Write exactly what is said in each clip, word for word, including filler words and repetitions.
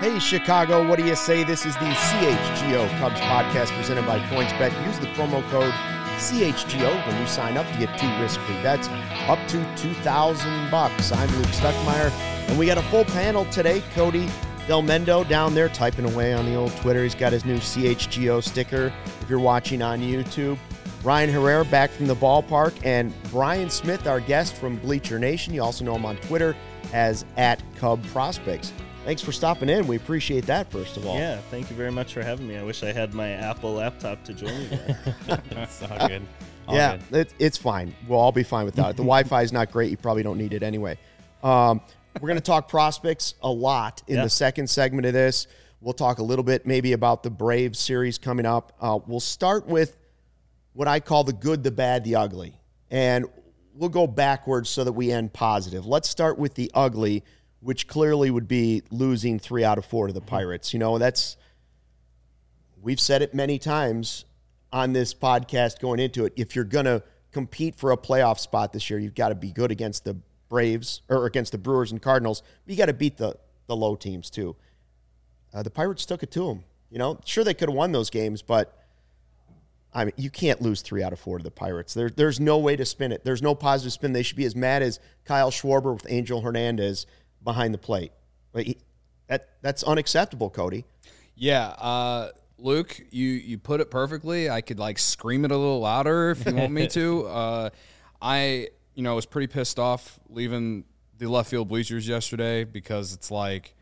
Hey, Chicago, what do you say? This is the C H G O Cubs podcast presented by PointsBet. Use the promo code C H G O when you sign up to get two risk-free bets up to two thousand bucks. I'm Luke Stuckmeyer, and we got a full panel today. Cody Del Mendo down there typing away on the old Twitter. He's got his new C H G O sticker if you're watching on YouTube. Ryan Herrera back from the ballpark, and Brian Smith, our guest from Bleacher Nation. You also know him on Twitter as at Cub Prospects. Thanks for stopping in. We appreciate that, first of all. Yeah, thank you very much for having me. I wish I had my Apple laptop to join you there. That's all good. All yeah, good. It, it's fine. We'll all be fine without it. The Wi-Fi is not great. You probably don't need it anyway. Um, we're going to talk prospects a lot in yeah. the second segment of this. We'll talk a little bit maybe about the Braves series coming up. Uh, we'll start with what I call the good, the bad, the ugly. And we'll go backwards so that we end positive. Let's start with the ugly, which clearly would be losing three out of four to the Pirates. You know, that's, we've said it many times on this podcast going into it. If you're going to compete for a playoff spot this year, you've got to be good against the Braves or against the Brewers and Cardinals. But you got to beat the, the low teams too. Uh, the Pirates took it to them. You know, sure, they could have won those games, but I mean, you can't lose three out of four to the Pirates. There, there's no way to spin it. There's no positive spin. They should be as mad as Kyle Schwarber with Angel Hernandez behind the plate. Like he, that that's unacceptable, Cody. Yeah, uh, Luke, you you put it perfectly. I could like scream it a little louder if you want me to. Uh, I you know was pretty pissed off leaving the left field bleachers yesterday because it's like,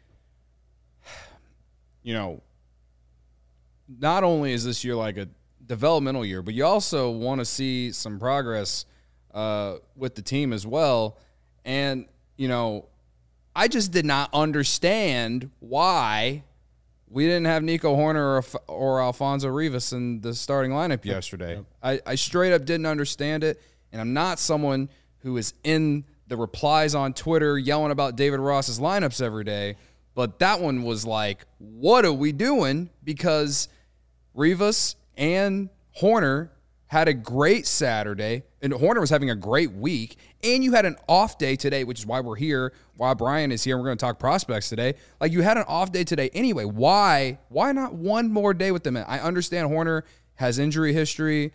you know, not only is this year like a developmental year, but you also want to see some progress uh, with the team as well. And you know, I just did not understand why we didn't have Nico Horner or, or Alfonso Rivas in the starting lineup yesterday. Yep. I, I straight up didn't understand it, and I'm not someone who is in the replies on Twitter yelling about David Ross's lineups every day, but that one was like, what are we doing? Because Rivas and Horner had a great Saturday, and Horner was having a great week, and you had an off day today, which is why we're here, why Brian is here, and we're going to talk prospects today. Like, you had an off day today anyway. Why? Why not one more day with them? I understand Horner has injury history,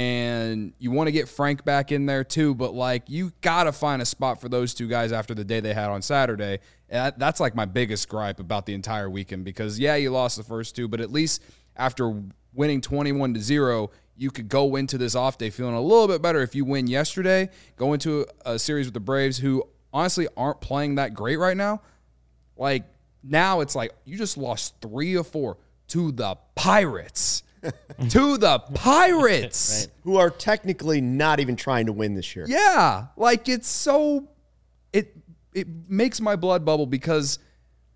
and you want to get Frank back in there too, but, like, you got to find a spot for those two guys after the day they had on Saturday. And that's, like, my biggest gripe about the entire weekend because, yeah, you lost the first two, but at least after winning twenty-one to zero, you could go into this off day feeling a little bit better if you win yesterday, go into a series with the Braves who honestly aren't playing that great right now. Like, now it's like you just lost three or four to the Pirates. to the Pirates. Right. Who are technically not even trying to win this year. Yeah. Like, it's so – it it makes my blood bubble because –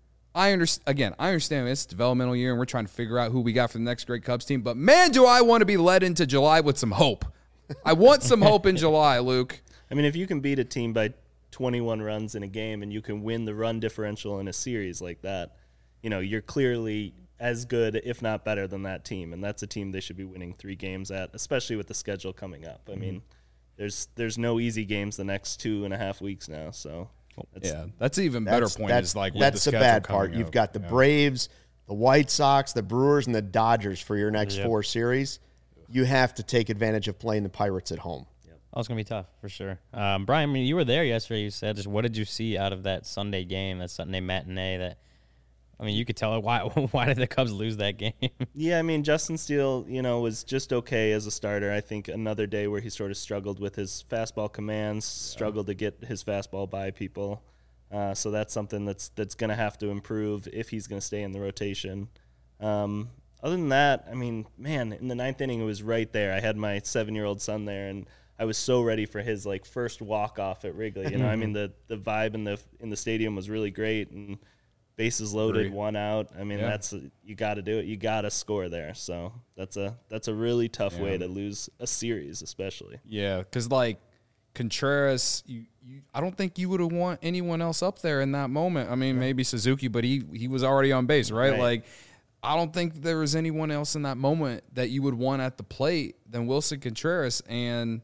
I understand, again, I understand it's developmental year and we're trying to figure out who we got for the next great Cubs team, but man, do I want to be led into July with some hope. I want some hope in July, Luke. I mean, if you can beat a team by twenty-one runs in a game and you can win the run differential in a series like that, you know, you're clearly as good, if not better than that team, and that's a team they should be winning three games at, especially with the schedule coming up. I mm-hmm. mean, there's there's no easy games the next two and a half weeks now, so... That's, yeah, that's an even better point. Is like that's the, the bad part. You've up. got the yeah. Braves, the White Sox, the Brewers, and the Dodgers for your next yep. four series. You have to take advantage of playing the Pirates at home. Yep. Oh, it's gonna be tough for sure. Um, Brian, I mean, you were there yesterday. You said, just what did you see out of that Sunday game, that Sunday matinee? That I mean, you could tell why. Why did the Cubs lose that game? Yeah, I mean, Justin Steele, you know, was just okay as a starter. I think another day where he sort of struggled with his fastball commands, struggled to get his fastball by people. Uh, so that's something that's that's going to have to improve if he's going to stay in the rotation. Um, other than that, I mean, man, in the ninth inning, it was right there. I had my seven-year-old son there, and I was so ready for his like first walk-off at Wrigley. You know, I mean, the the vibe in the in the stadium was really great, and bases loaded, Great. one out. I mean, yeah. that's a, you got to do it. You got to score there. So that's a that's a really tough yeah. way to lose a series, especially. Yeah, because like Contreras, you, you I don't think you would have want anyone else up there in that moment. I mean, right. maybe Suzuki, but he he was already on base, right? right? Like, I don't think there was anyone else in that moment that you would want at the plate than Wilson Contreras. And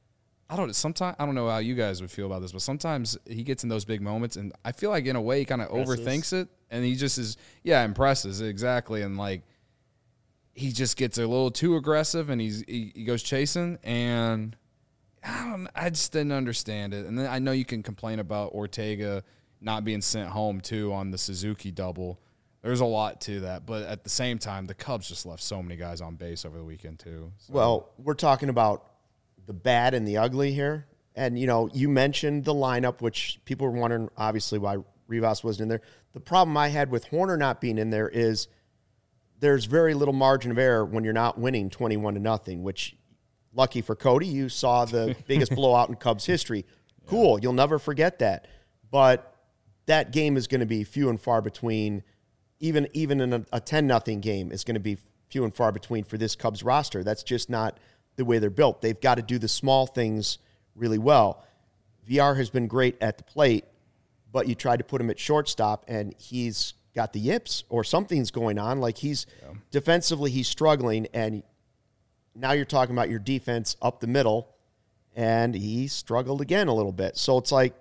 I don't sometimes I don't know how you guys would feel about this, but sometimes he gets in those big moments, and I feel like in a way he kind of overthinks it. and he just is, yeah, impresses exactly, and like he just gets a little too aggressive, and he's he, he goes chasing, and I don't, I just didn't understand it. And then I know you can complain about Ortega not being sent home too on the Suzuki double. There's a lot to that, but at the same time, the Cubs just left so many guys on base over the weekend too. So. Well, we're talking about the bad and the ugly here. And, you know, you mentioned the lineup, which people were wondering, obviously, why Rivas wasn't in there. The problem I had with Hoerner not being in there is there's very little margin of error when you're not winning twenty-one to nothing, which, lucky for Cody, you saw the biggest blowout in Cubs history. Cool. You'll never forget that. But that game is going to be few and far between. Even even in a, a ten nothing game is going to be few and far between for this Cubs roster. That's just not the way they're built. They've got to do the small things really well. V R has been great at the plate, but you tried to put him at shortstop, and he's got the yips or something's going on. Like he's yeah. defensively, he's struggling, and now you're talking about your defense up the middle, and he struggled again a little bit. So it's like,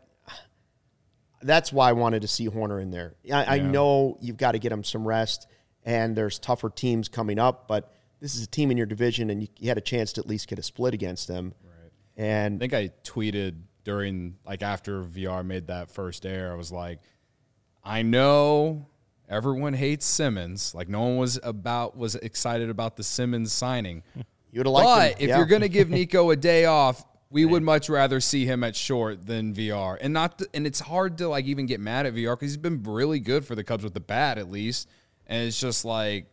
that's why I wanted to see Hoerner in there. I, yeah. I know you've got to get him some rest, and there's tougher teams coming up, but this is a team in your division, and you, you had a chance to at least get a split against them. Right. And I think I tweeted during, like after V R made that first error, I was like, I know everyone hates Simmons. Like no one was about was excited about the Simmons signing. You would have liked But him. if yeah. you're going to give Nico a day off, we would much rather see him at short than V R. And not to, and it's hard to like even get mad at V R because he's been really good for the Cubs with the bat at least. And it's just like,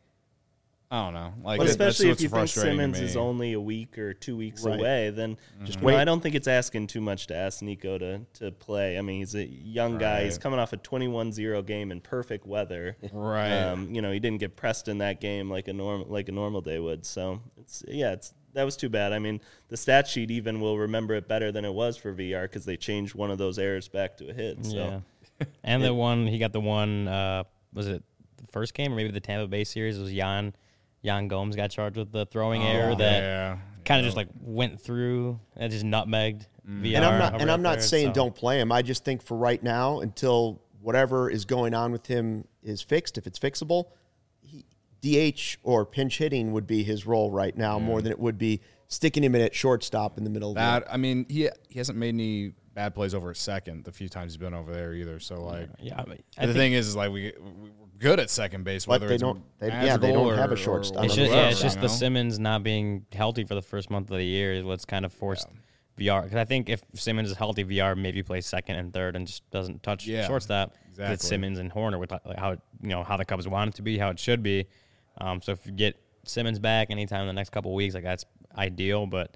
I don't know. Like, well, especially if you think frustrating Simmons is only a week or two weeks right. away, then just wait. know, I don't think it's asking too much to ask Nico to, to play. I mean, he's a young guy. Right. He's coming off a twenty-one zero game in perfect weather. Right. Um, you know, he didn't get pressed in that game like a normal like a normal day would. So it's yeah, it's that was too bad. I mean, the stat sheet even will remember it better than it was for V R because they changed one of those errors back to a hit. So. Yeah. And the one he got the one uh, was it the first game or maybe the Tampa Bay series? It was Jan. Jan Gomes got charged with the throwing oh, error that yeah. kind of yeah. just like went through and just nutmegged Mm. V R. And I'm not, and I'm not there, saying so. don't play him. I just think for right now, until whatever is going on with him is fixed, if it's fixable, he, D H or pinch hitting would be his role right now Yeah. more than it would be sticking him in at shortstop in the middle of That, the I mean, he he hasn't made any bad plays over a second the few times he's been over there either. So, like, Yeah, I mean, the I think thing is, is like we, we we're good at second base, But whether they it's don't- they- yeah, they Magical don't have a or- shortstop. or it's I just, don't yeah, know, it's just you the know? Simmons not being healthy for the first month of the year is what's kind of forced Yeah. V R. Because I think if Simmons is healthy, V R maybe plays second and third and just doesn't touch Yeah, shortstop. exactly. It's Simmons and Hoerner with like how you know how the Cubs want it to be, how it should be. Um, so if you get Simmons back anytime in the next couple of weeks, like that's ideal. But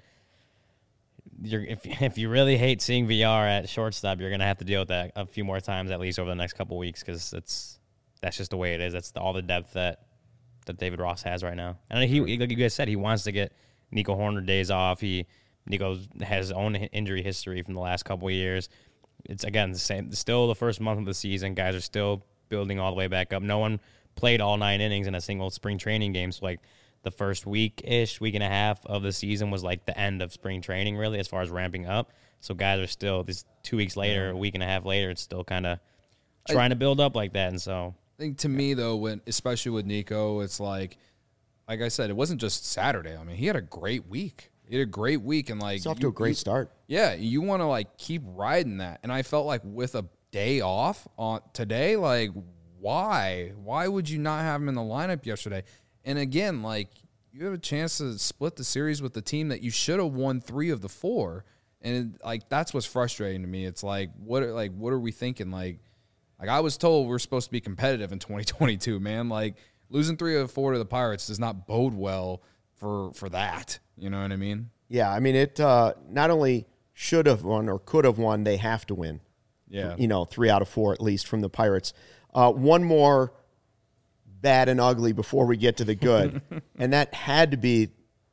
you're if if you really hate seeing V R at shortstop, you're gonna have to deal with that a few more times at least over the next couple of weeks because it's that's just the way it is. That's the, all the depth that that David Ross has right now. And he, like you guys said, he wants to get Nico Hoerner days off. He Nico has his own injury history from the last couple of years. It's again the same. Still the first month of the season, guys are still building all the way back up. No one played all nine innings in a single spring training game. So like the first week ish, week and a half of the season was like the end of spring training, really, as far as ramping up. So guys are still this two weeks later, a week and a half later, it's still kind of trying I, to build up like that. And so I think to me though, when especially with Nico, it's like, like I said, it wasn't just Saturday. I mean, he had a great week. He had a great week, and like It's off you, to a great you, start. Yeah, you want to like keep riding that, and I felt like with a day off on today, like why? Why would you not have him in the lineup yesterday? And again, like you have a chance to split the series with the team that you should have won three of the four, and it, like that's what's frustrating to me. It's like what, are, like what are we thinking? Like, like I was told we're supposed to be competitive in twenty twenty-two, man. Like losing three of four to the Pirates does not bode well for for that. You know what I mean? Yeah, I mean, it uh, not only should have won or could have won, they have to win. Yeah. You know, three out of four at least from the Pirates. Uh, one more bad and ugly before we get to the good, and that had to be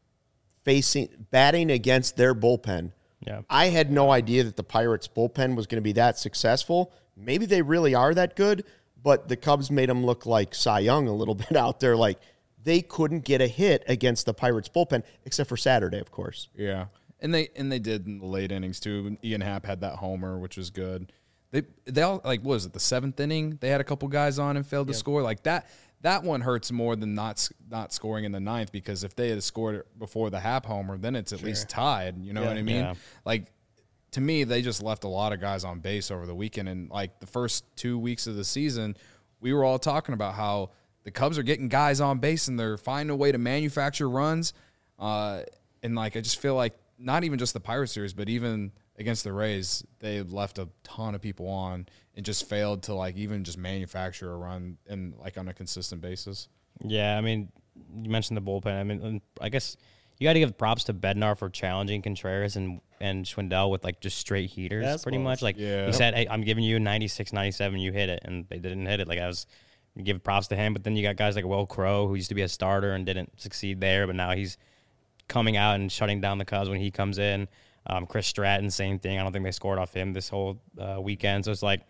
facing batting against their bullpen. yeah, I had no idea that the Pirates' bullpen was going to be that successful. Maybe they really are that good, but the Cubs made them look like Cy Young a little bit out there. Like, they couldn't get a hit against the Pirates' bullpen, except for Saturday, of course. Yeah. And they and they did in the late innings, too. Ian Happ had that homer, which was good. They they all like what was it the seventh inning? They had a couple guys on and failed to score like that. That one hurts more than not s- not scoring in the ninth, because if they had scored before the Hap homer, then it's at least tied. You know Yeah. what I mean? Yeah. Like, to me, they just left a lot of guys on base over the weekend. And like the first two weeks of the season, we were all talking about how the Cubs are getting guys on base and they're finding a way to manufacture runs. Uh, and like I just feel like not even just the Pirates series, but even against the Rays, they left a ton of people on and just failed to like even just manufacture a run and like on a consistent basis. Yeah, I mean, you mentioned the bullpen. I mean, and I guess you got to give props to Bednar for challenging Contreras and, and Schwindel with like just straight heaters, Fastballs. pretty much. Like Yeah. he said, hey, I'm giving you ninety-six, ninety-seven, you hit it, and they didn't hit it. Like I was you give props to him, but then you got guys like Will Crowe, who used to be a starter and didn't succeed there, but now he's coming out and shutting down the Cubs when he comes in. Um, Chris Stratton, same thing. I don't think they scored off him this whole uh, weekend, so it's like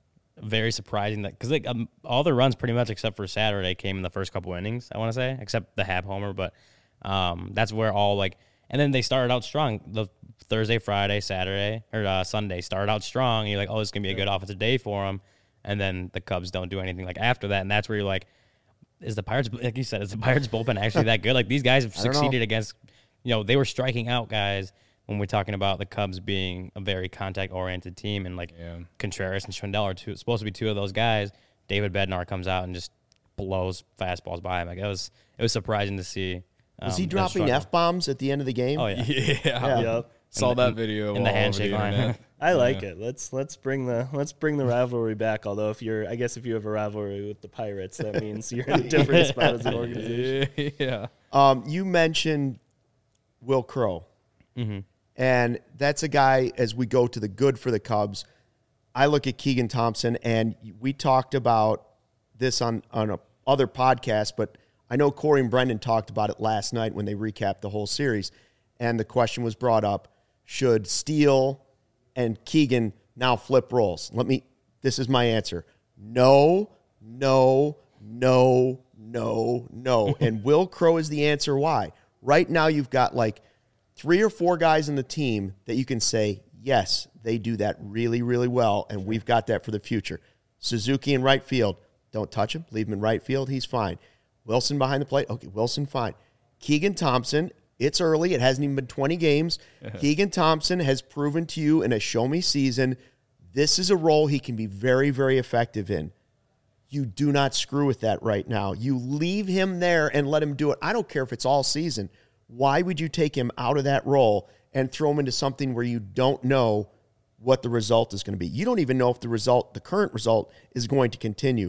very surprising that because like um, all the runs pretty much except for Saturday came in the first couple innings. I want to say, except the Hap homer, but um, that's where all like. And then they started out strong. The Thursday, Friday, Saturday, or uh, Sunday started out strong. And you're like, oh, it's gonna be a good offensive day for them. And then the Cubs don't do anything like after that, and that's where you're like, is the Pirates, like you said, is the Pirates bullpen actually that good? Like these guys have I don't know. succeeded against, you know, they were striking out guys when we're talking about the Cubs being a very contact-oriented team, and like Yeah. Contreras and Schwindel are two, supposed to be two of those guys. David Bednar comes out and just blows fastballs by him. Like it was, it was surprising to see. Was um, he them dropping struggle. F bombs at the end of the game? Oh yeah, Yeah. Yep. Saw In the- that video in the all over handshake line. internet. I like it. Let's let's bring the let's bring the rivalry back. Although if you're, I guess if you have a rivalry with the Pirates, that means you're in a different spot as an organization. yeah. Um, you mentioned Will Crowe, Mm-hmm. and that's a guy. As we go to the good for the Cubs, I look at Keegan Thompson, and we talked about this on on a other podcast, but I know Corey and Brendan talked about it last night when they recapped the whole series, and the question was brought up: should Steele and Keegan now flip roles? Let me. This is my answer: no, no, no, no, no. And Will Crowe is the answer. Why? Right now, you've got like three or four guys in the team that you can say, yes, they do that really, really well, and we've got that for the future. Suzuki in right field, don't touch him. Leave him in right field. He's fine. Wilson behind the plate. Okay, Wilson, fine. Keegan Thompson, it's early. It hasn't even been twenty games. Keegan Thompson has proven to you in a show-me season, this is a role he can be very, very effective in. You do not screw with that right now. You leave him there and let him do it. I don't care if it's all season. Why would you take him out of that role and throw him into something where you don't know what the result is going to be? You don't even know if the result, the current result, is going to continue.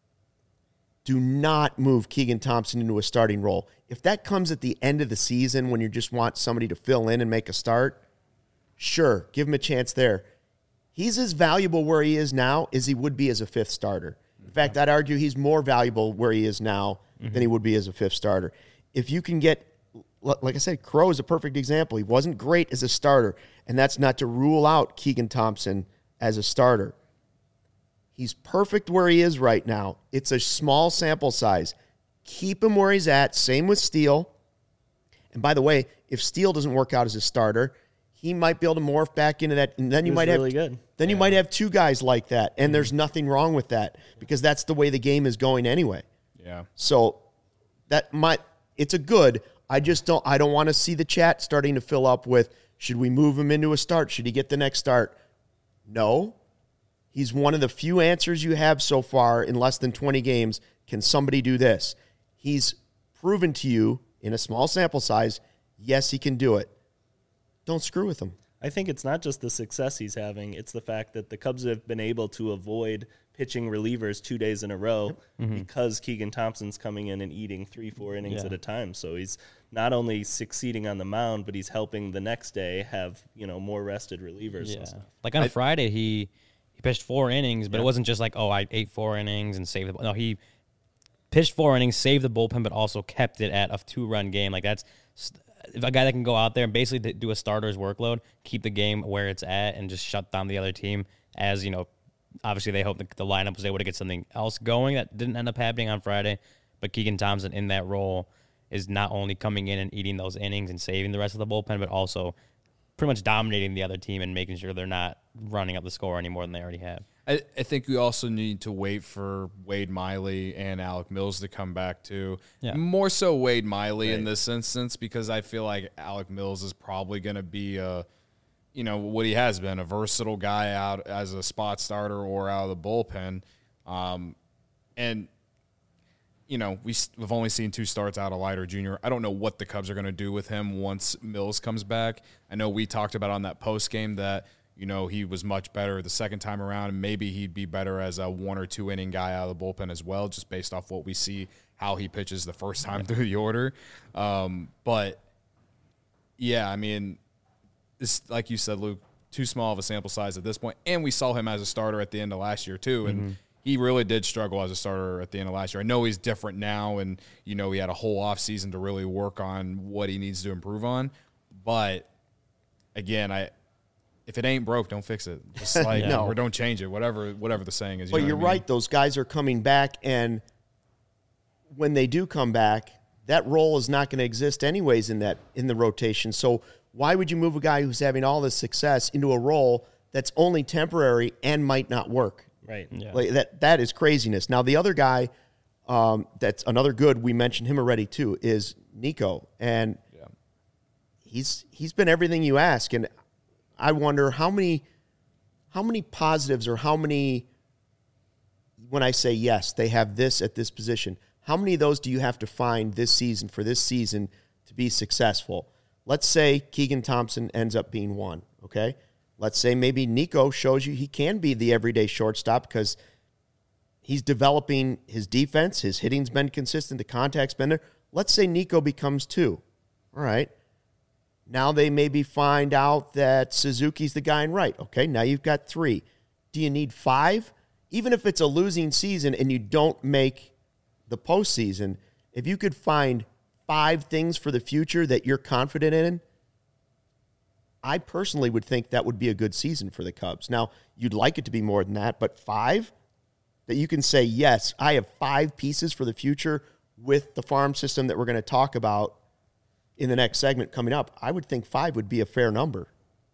Do not move Keegan Thompson into a starting role. If that comes at the end of the season when you just want somebody to fill in and make a start, sure, give him a chance there. He's as valuable where he is now as he would be as a fifth starter. In fact, I'd argue he's more valuable where he is now mm-hmm. than he would be as a fifth starter. If you can get, like I said, Crowe is a perfect example. He wasn't great as a starter, and that's not to rule out Keegan Thompson as a starter. He's perfect where he is right now. It's a small sample size. Keep him where he's at. Same with Steele. And by the way, if Steele doesn't work out as a starter, he might be able to morph back into that, and then you He was might really have good. then you might have two guys like that, and there's nothing wrong with that because that's the way the game is going anyway. Yeah. So that might it's a good. I just don't I don't want to see the chat starting to fill up with should we move him into a start? Should he get the next start? No. He's one of the few answers you have so far in less than twenty games. Can somebody do this? He's proven to you in a small sample size, yes, he can do it. Don't screw with him. I think it's not just the success he's having, it's the fact that the Cubs have been able to avoid pitching relievers two days in a row mm-hmm. because Keegan Thompson's coming in and eating three, four innings Yeah. at a time. So he's not only succeeding on the mound, but he's helping the next day have, you know, more rested relievers Yeah. and stuff. Like on I, Friday, he he pitched four innings, but yeah. it wasn't just like, oh, I ate four innings and saved the. No, he pitched four innings, saved the bullpen, but also kept it at a two-run game. Like that's a guy that can go out there and basically do a starter's workload, keep the game where it's at, and just shut down the other team. As you know, obviously they hope the, the lineup was able to get something else going that didn't end up happening on Friday. But Keegan Thompson in that role is not only coming in and eating those innings and saving the rest of the bullpen, but also pretty much dominating the other team and making sure they're not running up the score any more than they already have. I, I think we also need to wait for Wade Miley and Alec Mills to come back too. Yeah. More so Wade Miley Right. in this instance, because I feel like Alec Mills is probably going to be a, you know, what he has been, a versatile guy out as a spot starter or out of the bullpen. Um, and, you know, we, we've only seen two starts out of Leiter Junior I don't know what the Cubs are going to do with him once Mills comes back. I know we talked about on that post game that, you know, he was much better the second time around, and maybe he'd be better as a one or two inning guy out of the bullpen as well, just based off what we see how he pitches the first time through the order. Um, but yeah, I mean, this, like you said, Luke, too small of a sample size at this point, and we saw him as a starter at the end of last year too, and mm-hmm. he really did struggle as a starter at the end of last year. I know he's different now, and you know he had a whole offseason to really work on what he needs to improve on, but again, I. If it ain't broke, don't fix it. Just like No. or don't change it. Whatever, whatever the saying is. You But know you're what I mean? right; those guys are coming back, and when they do come back, that role is not going to exist anyways in that in the rotation. So why would you move a guy who's having all this success into a role that's only temporary and might not work? Right. Yeah. Like that that is craziness. Now the other guy, um, that's another good. We mentioned him already too. Is Nico, and Yeah. he's he's been everything you ask, and I wonder how many how many positives or how many, when I say yes, they have this at this position, how many of those do you have to find this season for this season to be successful? Let's say Keegan Thompson ends up being one, okay? Let's say maybe Nico shows you he can be the everyday shortstop because he's developing his defense, his hitting's been consistent, the contact's been there. Let's say Nico becomes two. All right. Now they maybe find out that Suzuki's the guy in right. Okay, now you've got three. Do you need five? Even if it's a losing season and you don't make the postseason, if you could find five things for the future that you're confident in, I personally would think that would be a good season for the Cubs. Now, you'd like it to be more than that, but five? That you can say, yes, I have five pieces for the future with the farm system that we're going to talk about in the next segment coming up. I would think five would be a fair number.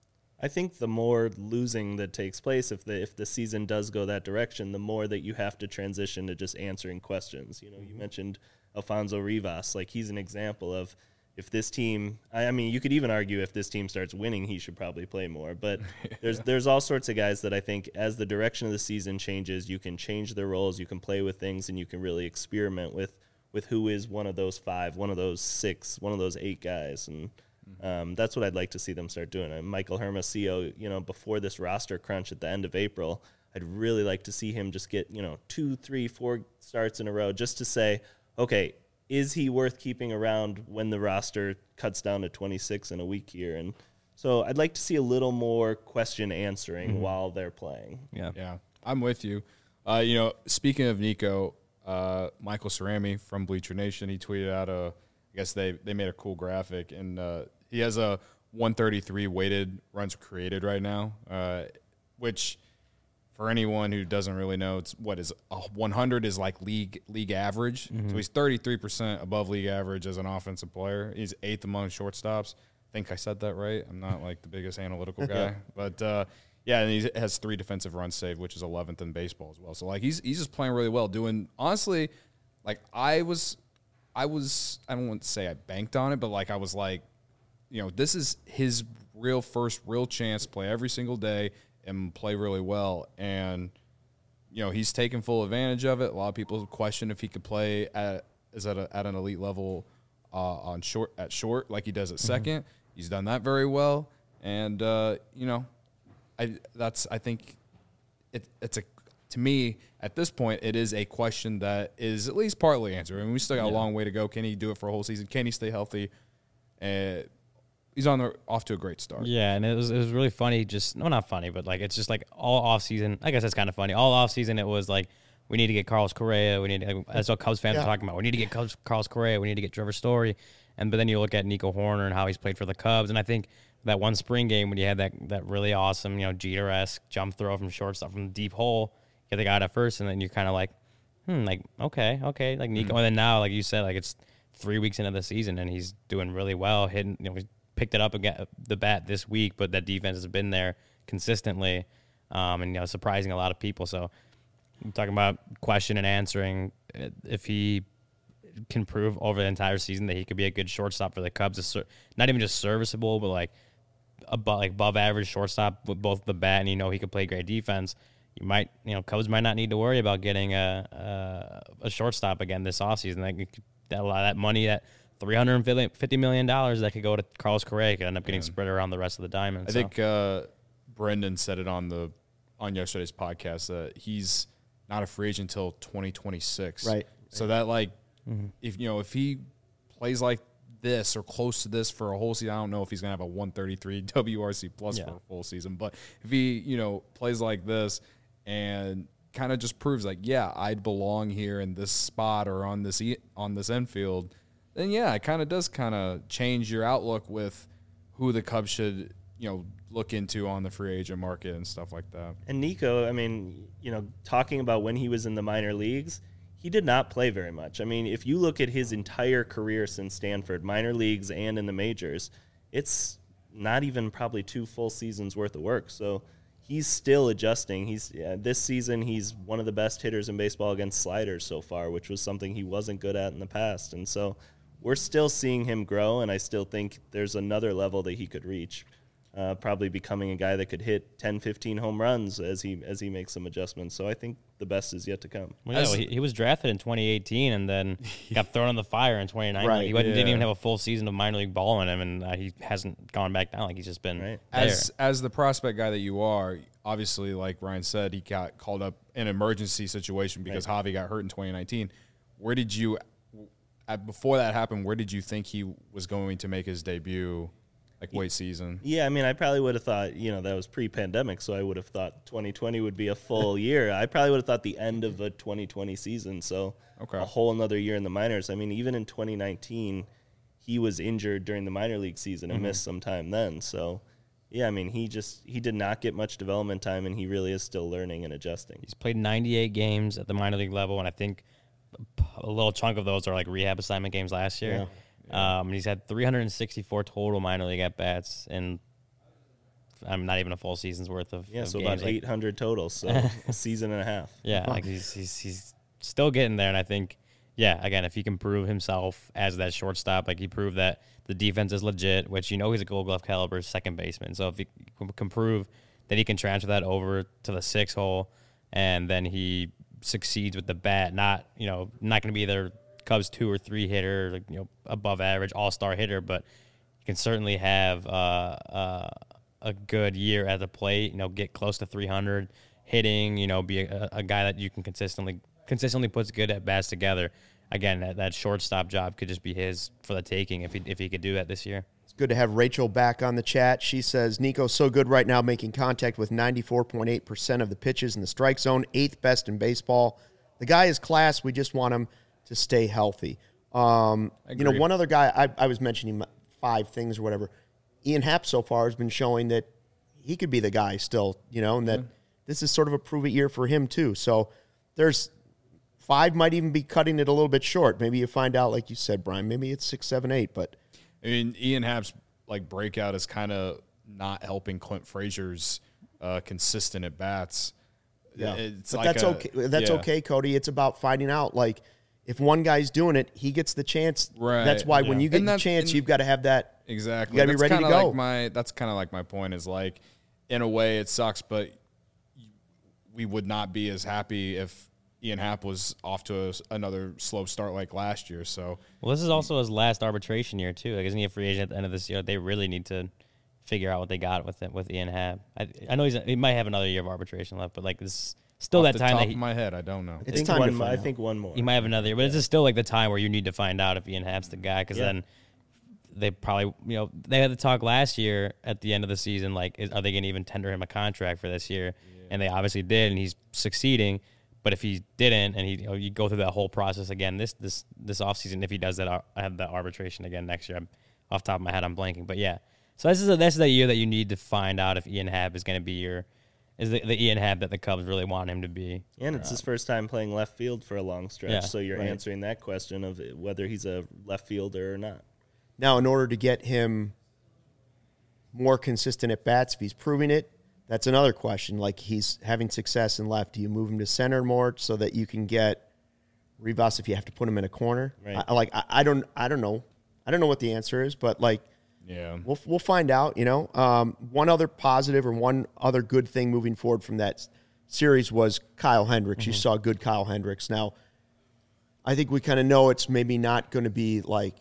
I think the more losing that takes place, if the if the season does go that direction, the more that you have to transition to just answering questions. You know, you mentioned Alfonso Rivas. Like, he's an example of, if this team, I, I mean, you could even argue if this team starts winning, he should probably play more. But there's there's all sorts of guys that I think as the direction of the season changes, you can change their roles, you can play with things, and you can really experiment with with who is one of those five, one of those six, one of those eight guys. And um, that's what I'd like to see them start doing. And Michael Hermosillo, you know, before this roster crunch at the end of April, I'd really like to see him just get, you know, two, three, four starts in a row just to say, okay, is he worth keeping around when the roster cuts down to twenty-six in a week here? And so I'd like to see a little more question answering mm-hmm. while they're playing. Yeah. Yeah, I'm with you. Uh, you know, speaking of Nico, uh, Michael Cerami from Bleacher Nation, he tweeted out a, I guess they, they made a cool graphic, and uh, he has a one thirty-three weighted runs created right now, uh, which for anyone who doesn't really know, it's what is uh, one hundred is like league league average. Mm-hmm. So he's thirty-three percent above league average as an offensive player. He's eighth among shortstops. I think I said that right. I'm not like the biggest analytical guy, but uh, yeah, and he has three defensive runs saved, which is eleventh in baseball as well. So like he's he's just playing really well. Doing honestly, like I was, I was I don't want to say I banked on it, but like I was like, you know, this is his real first real chance to play every single day and play really well. And, you know, he's taken full advantage of it. A lot of people question if he could play at is at, a, at an elite level uh, on short at short like he does at second. Mm-hmm. He's done that very well. And, uh, you know, I that's I think it, it's a to me at this point it is a question that is at least partly answered. I mean, we still got yeah. a long way to go. Can he do it for a whole season? Can he stay healthy? And he's on the off to a great start. Yeah, and it was it was really funny. Just no, not funny, but like it's just like all off season. I guess that's kind of funny. All off season, it was like we need to get Carlos Correa. We need to, that's what Cubs fans yeah. are talking about. We need to get Cubs, Carlos Correa. We need to get Trevor Story. And but then you look at Nico Hoerner and how he's played for the Cubs, and I think that one spring game when you had that that really awesome, you know, Jeter-esque jump throw from shortstop from the deep hole, get the guy out at first, and then you're kind of like, hmm, like okay, okay, like Nico. Mm-hmm. And then now, like you said, like it's three weeks into the season, and he's doing really well, hitting, you know, he's picked it up again the bat this week, but that defense has been there consistently, um, and you know surprising a lot of people. So I'm talking about question and answering. If he can prove over the entire season that he could be a good shortstop for the Cubs, not even just serviceable, but like above, like above average shortstop with both the bat, and you know he could play great defense. You might, you know, Cubs might not need to worry about getting a a, a shortstop again this offseason. That that a lot of that money, that three hundred fifty million dollars that could go to Carlos Correa, could end up getting yeah. spread around the rest of the diamond. I so. think uh, Brendan said it on the on yesterday's podcast that he's not a free agent until twenty twenty-six. Right. So that like, mm-hmm. if you know, if he plays like this or close to this for a whole season, I don't know if he's gonna have a one thirty-three W R C plus yeah. for a full season, but if he, you know, plays like this and kind of just proves like, yeah, I'd belong here in this spot or on this on this infield, then yeah, it kind of does kind of change your outlook with who the Cubs should, you know, look into on the free agent market and stuff like that. And Nico, I mean, you know, talking about when he was in the minor leagues, he did not play very much. I mean, if you look at his entire career since Stanford, minor leagues and in the majors, it's not even probably two full seasons worth of work. So he's still adjusting. He's yeah, this season he's one of the best hitters in baseball against sliders so far, which was something he wasn't good at in the past. And so we're still seeing him grow, and I still think there's another level that he could reach. Uh, probably becoming a guy that could hit ten, fifteen home runs as he as he makes some adjustments. So I think the best is yet to come. Well, yeah, well, he, he was drafted in twenty eighteen and then got thrown on the fire in twenty nineteen. Right, he yeah. didn't even have a full season of minor league ball in him, and uh, he hasn't gone back down. Like he's just been right. there. As as the prospect guy that you are, obviously, like Ryan said, he got called up in an emergency situation because right. Javi got hurt in twenty nineteen. Where did you, before that happened, where did you think he was going to make his debut? Like late season. Yeah, I mean, I probably would have thought, you know, that was pre-pandemic, so I would have thought twenty twenty would be a full year. I probably would have thought the end of a twenty twenty season, so okay. a whole another year in the minors. I mean, even in twenty nineteen, he was injured during the minor league season and mm-hmm. missed some time then. So, yeah, I mean, he just he did not get much development time, and he really is still learning and adjusting. He's played ninety-eight games at the minor league level, and I think a little chunk of those are like rehab assignment games last year. Yeah. Yeah. Um, he's had three hundred sixty-four total minor league at bats, and I'm not even a full season's worth of yeah, of so games. about like, eight hundred total, so a season and a half. Yeah, like he's he's he's still getting there, and I think yeah, again, if he can prove himself as that shortstop, like he proved that the defense is legit, which you know he's a Gold Glove caliber second baseman. So if he can prove that he can transfer that over to the six hole, and then he succeeds with the bat, not you know not going to be their Cubs two or three hitter, you know, above average all star hitter, but you can certainly have uh, uh, a good year at the plate. You know, get close to three hundred hitting. You know, be a, a guy that you can consistently consistently puts good at bats together. Again, that, that shortstop job could just be his for the taking if he if he could do that this year. It's good to have Rachel back on the chat. She says Nico's so good right now, making contact with ninety-four point eight percent of the pitches in the strike zone, eighth best in baseball. The guy is class. We just want him to stay healthy. Um, you know, one other guy, I, I was mentioning five things or whatever. Ian Happ so far has been showing that he could be the guy still, you know, and that mm-hmm. this is sort of a prove-it year for him too. So there's five might even be cutting it a little bit short. Maybe you find out, like you said, Brian, maybe it's six, seven, eight. But I mean, Ian Happ's like breakout is kind of not helping Clint Frazier's uh, consistent at bats. Yeah, it's but like that's a, okay. That's yeah. okay, Cody. It's about finding out, like, if one guy's doing it, he gets the chance. Right. That's why yeah. when you get And the that- chance, and- you've got to have that. Exactly. You got to be That's ready to kinda go. Like my, that's kind of like my point is like, in a way it sucks, but we would not be as happy if Ian Happ was off to a, another slow start like last year. So, Well, this is also his last arbitration year too. Like, isn't he a free agent at the end of this year? They really need to figure out what they got with it with Ian Happ. I, I know he's he might have another year of arbitration left, but like this is still off that the time top that he, of my head, I don't know. I It's think time to one. find I out. think one more. he might have another year, but it's just still like the time where you need to find out if Ian Happ's the guy, because Yeah. then they probably, you know, they had the talk last year at the end of the season, like, is, are they going to even tender him a contract for this year? Yeah. And they obviously did, and he's succeeding. But if he didn't, and he, you know, you go through that whole process again this this this offseason, if he does that, I have that arbitration again next year. I'm, off the top of my head, I'm blanking, but yeah. So this is a, this is the year that you need to find out if Ian Happ is going to be your is the, the Ian Happ that the Cubs really want him to be. And it's his first time playing left field for a long stretch, Yeah, so you're right. answering that question of whether he's a left fielder or not. Now, in order to get him more consistent at bats, if he's proving it, that's another question. Like, he's having success in left. Do you move him to center more so that you can get Rivas if you have to put him in a corner? Right. I, like, I, I don't, I don't know. I don't know what the answer is, but like, Yeah. we'll we'll find out. You know, um, one other positive or one other good thing moving forward from that s- series was Kyle Hendricks. Mm-hmm. You saw good Kyle Hendricks. Now, I think we kind of know it's maybe not going to be like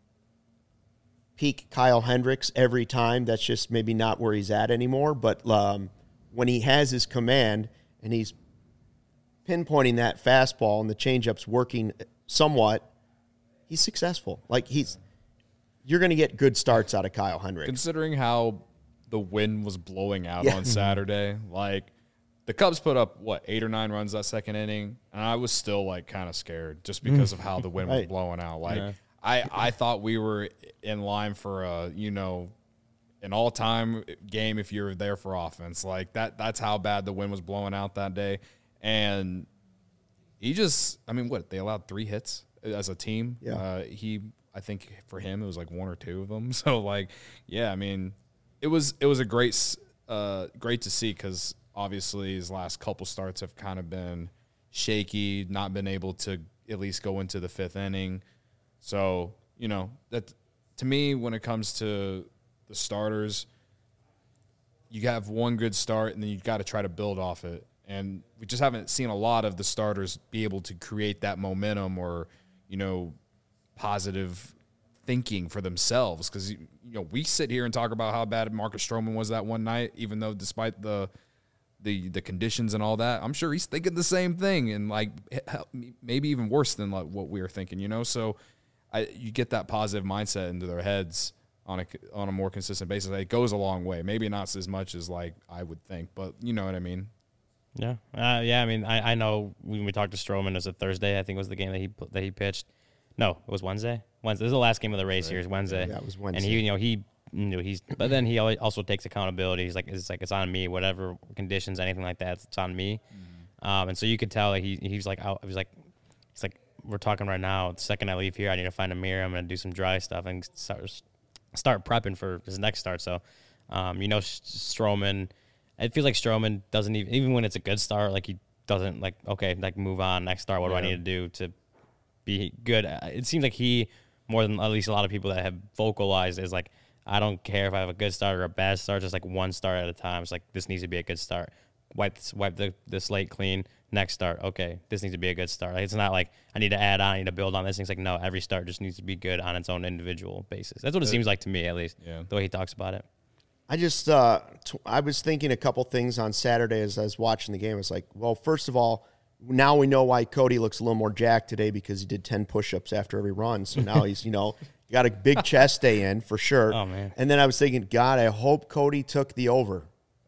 peak Kyle Hendricks every time. That's just maybe not where he's at anymore. But um, when he has his command and he's pinpointing that fastball and the changeup's working somewhat, he's successful. Like, he's you're going to get good starts out of Kyle Hendricks. Considering how the wind was blowing out Yeah. on Saturday, like the Cubs put up what eight or nine runs that second inning, and I was still like kind of scared just because of how the wind was Right. blowing out. Like Yeah. I, I thought we were in line for a you know an all time game if you're there for offense. Like that that's how bad the wind was blowing out that day, and he just I mean what they allowed three hits as a team. Yeah. Uh, he I think for him it was like one or two of them. So like yeah, I mean it was it was a great s- uh, great to see because obviously his last couple starts have kind of been shaky, not been able to at least go into the fifth inning. So you know that to me when it comes to the starters, you have one good start and then you got to try to build off it. And we just haven't seen a lot of the starters be able to create that momentum or, you know, positive thinking for themselves. Because, you know, we sit here and talk about how bad Marcus Stroman was that one night, even though despite the the the conditions and all that, I'm sure he's thinking the same thing and, like, maybe even worse than like what we were thinking, you know? So I, you get that positive mindset into their heads on a, on a more consistent basis. It goes a long way. Maybe not as much as, like, I would think, but you know what I mean? Yeah, uh, yeah. I mean, I, I know when we talked to Stroman, it was a Thursday. I think was the game that he that he pitched. No, it was Wednesday. Wednesday. This is the last game of the race here. Is Wednesday. Yeah, it was And Wednesday. he, you know, he, you know, he's. But then he al- also takes accountability. He's like, it's like it's on me. Whatever conditions, anything like that, it's on me. Mm-hmm. Um, and so you could tell like he he was like out. He was like, he's like, we're talking right now. The second I leave here, I need to find a mirror. I'm gonna do some dry stuff and start start prepping for his next start. So, um, you know, Stroman. It feels like Stroman doesn't even, even when it's a good start, like he doesn't like, okay, like move on, next start. What do I Yeah. need to do to be good? Uh, It seems like he, more than at least a lot of people that have vocalized, is like, I don't care if I have a good start or a bad start, just like one start at a time. It's like, this needs to be a good start. Wipe, wipe the, the slate clean. Next start, okay, this needs to be a good start. Like, it's not like I need to add on, I need to build on this. It's like, no, every start just needs to be good on its own individual basis. That's what it seems like to me, at least, Yeah. the way he talks about it. I just, uh, t- I was thinking a couple things on Saturday as I was watching the game. I was like, well, first of all, now we know why Cody looks a little more jacked today because he did ten push-ups after every run. So now he's, you know, got a big chest day in for sure. Oh, man. And then I was thinking, God, I hope Cody took the over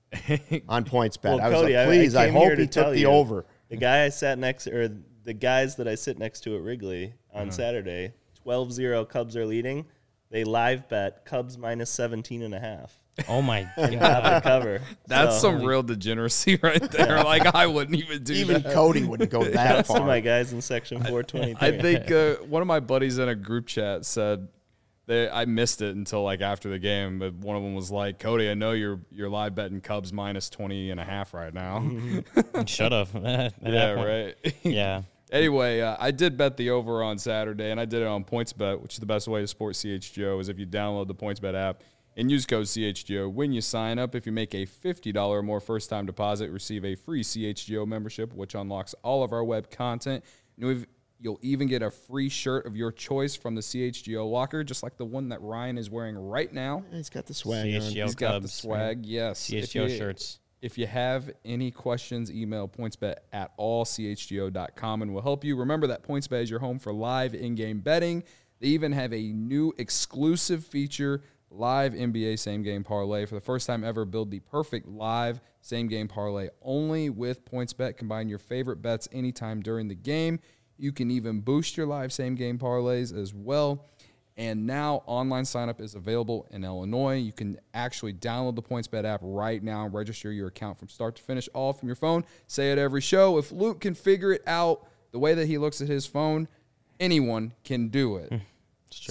on points bet. Well, I was Cody, like, please, I, came hope here he to tell took the you, over. The guy I sat next, or the guys that I sit next to at Wrigley Uh-huh. on Saturday, twelve zero Cubs are leading. They live bet Cubs minus seventeen and a half. Oh, my Not God. the cover. That's So, some real degeneracy right there. Like, I wouldn't even do Even that. Cody wouldn't go that That's to far. my guys in section four twenty-three. I think uh, one of my buddies in a group chat said they I missed it until like after the game, but one of them was like, Cody, I know you're you're live betting Cubs minus twenty and a half right now. Should have. yeah, right. Yeah. Anyway, uh, I did bet the over on Saturday, and I did it on PointsBet, which is the best way to support C H G O is if you download the PointsBet app and use code C H G O when you sign up. If you make a fifty dollars or more first-time deposit, receive a free C H G O membership, which unlocks all of our web content. And we've, you'll even get a free shirt of your choice from the C H G O locker, just like the one that Ryan is wearing right now. He's got the swag C on. H G O He's got the Cubs. swag, yes. C H If G O you- shirts. If you have any questions, email pointsbet at all c h g o dot com and we'll help you. Remember that PointsBet is your home for live in-game betting. They even have a new exclusive feature, live N B A same-game parlay. For the first time ever, build the perfect live same-game parlay only with PointsBet. Combine your favorite bets anytime during the game. You can even boost your live same-game parlays as well. And now online sign-up is available in Illinois. You can actually download the PointsBet app right now and register your account from start to finish, all from your phone. Say it every show. If Luke can figure it out the way that he looks at his phone, anyone can do it. true. So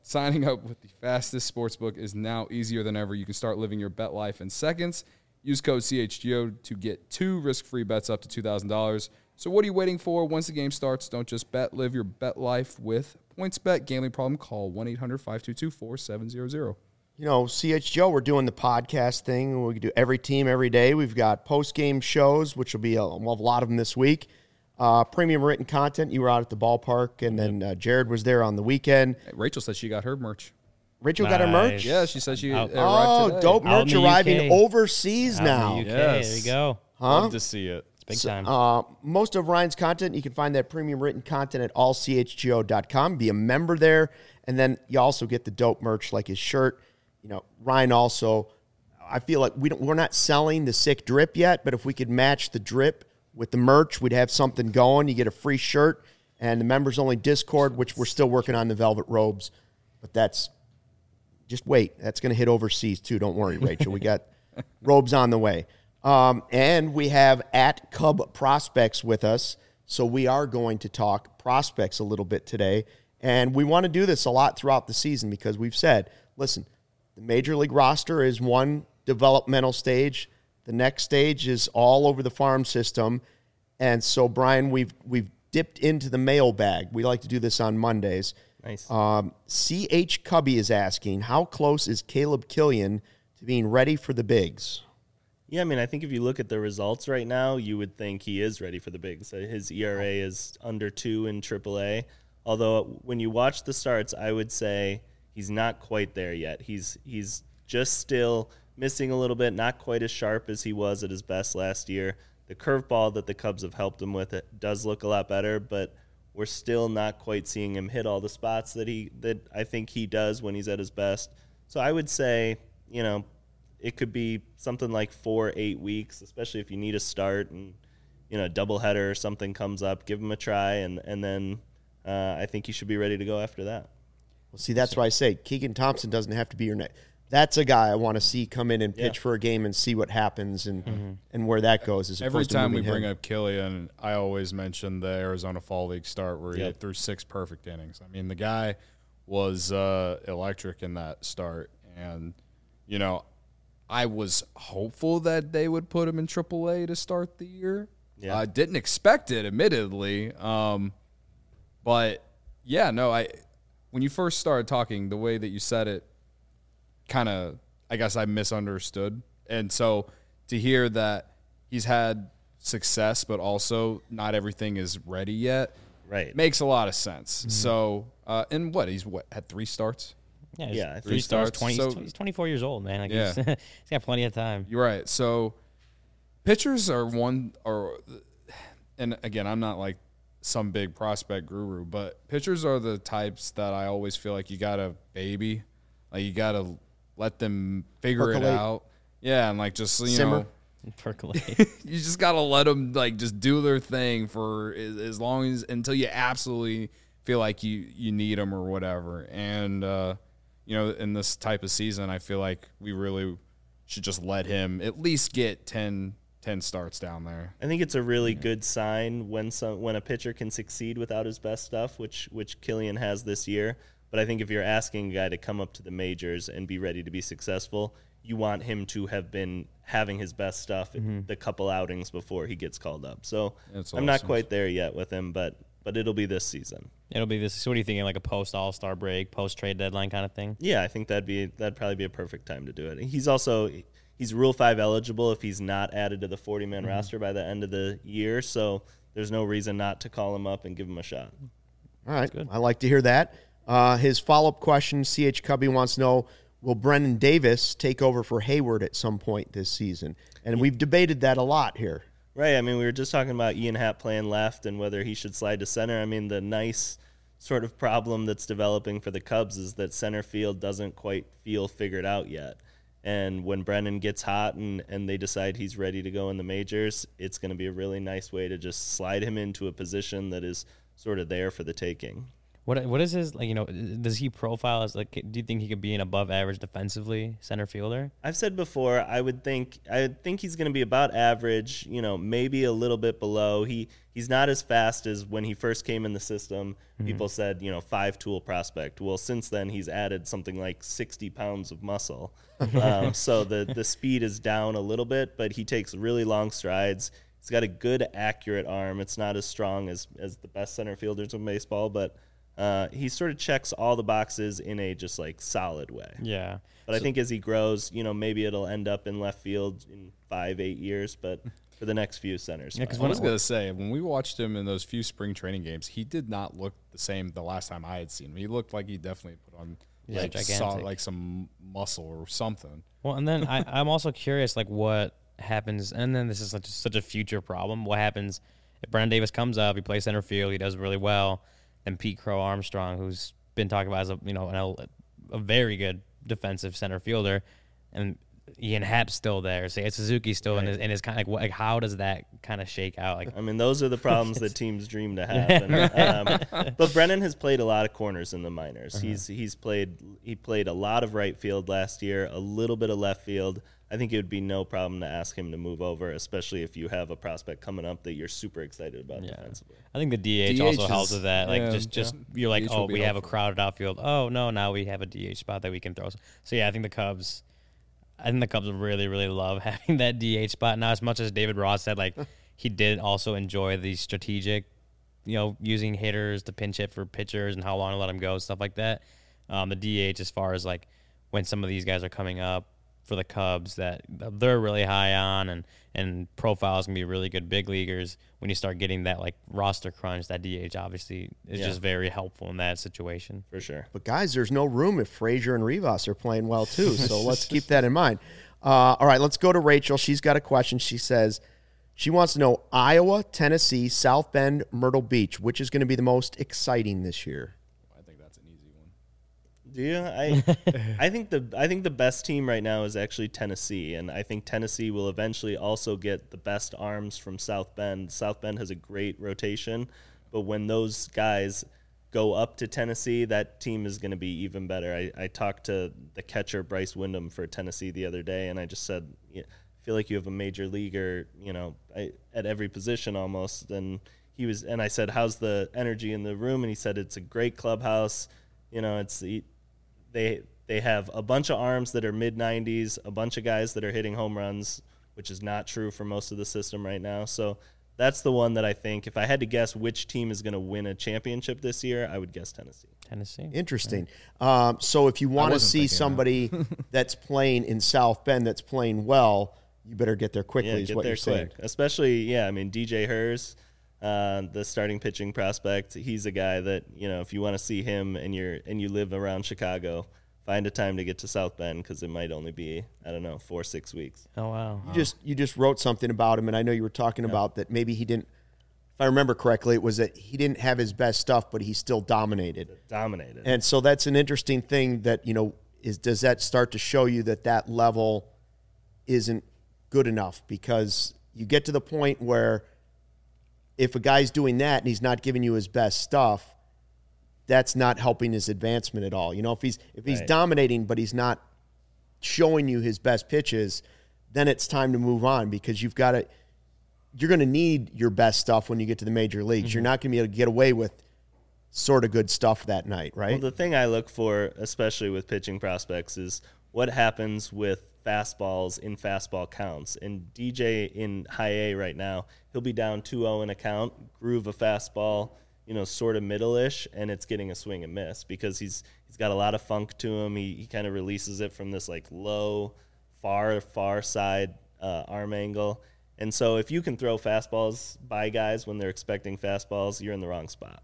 signing up with the fastest sportsbook is now easier than ever. You can start living your bet life in seconds. Use code C H G O to get two risk-free bets up to two thousand dollars. So what are you waiting for? Once the game starts, don't just bet. Live your bet life with PointsBet. Gambling problem? Call one eight hundred five two two four seven zero zero. You know, C H G O, we're doing the podcast thing. We do every team every day. We've got post-game shows, which will be a, we'll have a lot of them this week. Uh, premium written content. You were out at the ballpark, and then uh, Jared was there on the weekend. Hey, Rachel said she got her merch. Rachel got her merch? Nice. Yeah, she said she Out- arrived Oh, today. dope Out in merch the arriving U K. overseas Out in now. the U K, Yes. there you go. Huh? Love to see it. It's big So, time. Uh, most of Ryan's content, you can find that premium written content at all c h g o dot com. Be a member there, and then you also get the dope merch like his shirt. You know, Ryan also, I feel like we don't, we're not selling the sick drip yet, but if we could match the drip with the merch, we'd have something going. You get a free shirt, and the members-only Discord, which we're still working on the velvet robes, but that's, just wait. That's going to hit overseas too. Don't worry, Rachel. We got robes on the way. Um, and we have at Cub Prospects with us. So we are going to talk prospects a little bit today. And we want to do this a lot throughout the season because we've said, listen, the Major League roster is one developmental stage. The next stage is all over the farm system. And so, Brian, we've we've dipped into the mailbag. We like to do this on Mondays. Nice. Um, C H Cubby is asking, how close is Caleb Killian to being ready for the bigs? Yeah, I mean, I think if you look at the results right now, you would think he is ready for the bigs. Uh, His E R A is under two in triple A. Although when you watch the starts, I would say he's not quite there yet. He's he's just still missing a little bit, not quite as sharp as he was at his best last year. The curveball that the Cubs have helped him with it does look a lot better, but we're still not quite seeing him hit all the spots that he that I think he does when he's at his best. So I would say, you know, it could be something like four, eight weeks, especially if you need a start and, you know, a doubleheader or something comes up, give him a try, and, and then uh, I think he should be ready to go after that. Well, see, that's why I say Keegan Thompson doesn't have to be your next. That's a guy I want to see come in and pitch Yeah. for a game and see what happens and and where that goes. As Every opposed to time we moving bring him. up Killian, I always mention the Arizona Fall League start where he Yep. threw six perfect innings. I mean, the guy was uh, electric in that start. And, you know, I was hopeful that they would put him in triple A to start the year. Yeah. I didn't expect it, admittedly. Um, but, yeah, no, I when you first started talking, the way that you said it, kind of, I guess I misunderstood. And so to hear that he's had success, but also not everything is ready yet, Right. makes a lot of sense. So, uh, and what, he's what, had three starts? Yeah, he's Yeah, I three think stars. starts. Twenty. So- he's, he's twenty-four years old, man. Like Yeah. he's, he's got plenty of time. You're right. So pitchers are one, or, and again, I'm not like some big prospect guru, but pitchers are the types that I always feel like you got to baby. Like you got to let them figure it Percolate. out. Yeah, and like just, you Simmer. know, Percolate. you just got to let them like just do their thing for as, as long as until you absolutely feel like you you need them or whatever. And uh, you know, in this type of season, I feel like we really should just let him at least get ten, ten starts down there. I think it's a really good sign when some when a pitcher can succeed without his best stuff, which which Killian has this year. But I think if you're asking a guy to come up to the majors and be ready to be successful, you want him to have been having his best stuff in the couple outings before he gets called up. So That's I'm not awesome. quite there yet with him, but but it'll be this season. It'll be this. So what are you thinking? Like a post All Star break, post trade deadline kind of thing? Yeah, I think that'd be that'd probably be a perfect time to do it. He's also he's Rule Five eligible if he's not added to the forty man roster by the end of the year. So there's no reason not to call him up and give him a shot. All right. I like to hear that. Uh, his follow-up question, C H Cubby wants to know, will Brennan Davis take over for Hayward at some point this season? And we've debated that a lot here. Right. I mean, we were just talking about Ian Happ playing left and whether he should slide to center. I mean, the nice sort of problem that's developing for the Cubs is that center field doesn't quite feel figured out yet. And when Brennan gets hot and, and they decide he's ready to go in the majors, it's going to be a really nice way to just slide him into a position that is sort of there for the taking. What what is his, like, you know, does he profile as, like, do you think he could be an above average defensively center fielder? I've said before, I would think I would think he's going to be about average, you know, maybe a little bit below. He he's not as fast as when he first came in the system. Mm-hmm. People said, you know, five tool prospect. Well, since then he's added something like sixty pounds of muscle. um, so the the speed is down a little bit, but he takes really long strides. He's got a good accurate arm. It's not as strong as as the best center fielders in baseball, but Uh, he sort of checks all the boxes in a just like solid way. Yeah. But so, I think as he grows, you know, maybe it'll end up in left field in five, eight years. But for the next few centers, yeah. Because I was gonna say, when we watched him in those few spring training games, he did not look the same the last time I had seen him. He looked like he definitely put on yeah, like saw, like some muscle or something. Well, and then I, I'm also curious, like, what happens, and then this is such, such a future problem. What happens if Brennan Davis comes up, he plays center field, he does really well. And Pete Crow Armstrong, who's been talked about as a you know an, a very good defensive center fielder, and Ian Happ's still there. Say Suzuki's still right. in his, in his kind of like, like how does that kind of shake out? Like, I mean, those are the problems that teams dream to have. And, um, but Brennan has played a lot of corners in the minors. Uh-huh. He's he's played he played a lot of right field last year, a little bit of left field. I think it would be no problem to ask him to move over, especially if you have a prospect coming up that you're super excited about yeah. defensively. I think the D H, D H also is, helps with that. Like, yeah, just, just yeah. you're like, oh, we have a crowded outfield. Oh, no, now we have a D H spot that we can throw. So, yeah, I think the Cubs, I think the Cubs really, really love having that D H spot. Now, as much as David Ross said, like, he did also enjoy the strategic, you know, using hitters to pinch hit for pitchers and how long to let them go, stuff like that. Um, the D H, as far as, like, when some of these guys are coming up, for the Cubs that they're really high on and, and profiles can be really good big leaguers. When you start getting that like roster crunch, that D H obviously is yeah. just very helpful in that situation. For sure. But guys, there's no room if Frazier and Rivas are playing well too. So let's keep that in mind. Uh, all right, let's go to Rachel. She's got a question. She says she wants to know Iowa, Tennessee, South Bend, Myrtle Beach, which is going to be the most exciting this year? Do you? I I think the I think the best team right now is actually Tennessee, and I think Tennessee will eventually also get the best arms from South Bend. South Bend has a great rotation, but when those guys go up to Tennessee, that team is going to be even better. I, I talked to the catcher Bryce Wyndham for Tennessee the other day, and I just said, yeah, I feel like you have a major leaguer, you know, I, at every position almost. And he was, and I said, how's the energy in the room? And he said, it's a great clubhouse. You know, it's the They they have a bunch of arms that are mid nineties, a bunch of guys that are hitting home runs, which is not true for most of the system right now. So that's the one that I think, if I had to guess which team is going to win a championship this year, I would guess Tennessee. Tennessee. Interesting. Right. Um, so if you want to see somebody that. that's playing in South Bend that's playing well, you better get there quickly yeah, is get what there you're quick. saying. Especially, yeah, I mean, D J Hers, Uh, the starting pitching prospect, he's a guy that, you know, if you want to see him and you're and you live around Chicago, find a time to get to South Bend because it might only be, I don't know, four, six weeks. Oh, wow. You just you just wrote something about him, and I know you were talking yeah. about that maybe he didn't, if I remember correctly, it was that he didn't have his best stuff, but he still dominated. Dominated. And so that's an interesting thing that, you know, is does that start to show you that that level isn't good enough? Because you get to the point where if a guy's doing that and he's not giving you his best stuff, that's not helping his advancement at all. You know, if he's if he's right. dominating but he's not showing you his best pitches, then it's time to move on because you've got to you're going to need your best stuff when you get to the major leagues. Mm-hmm. You're not going to be able to get away with sort of good stuff that night, right? Well, the thing I look for, especially with pitching prospects, is what happens with fastballs in fastball counts. And D J in high A right now, he'll be down two oh in a count, groove a fastball, you know, sort of middle-ish, and it's getting a swing and miss because he's he's got a lot of funk to him. He he kind of releases it from this like low, far, far side uh, arm angle. And so if you can throw fastballs by guys when they're expecting fastballs, you're in the wrong spot.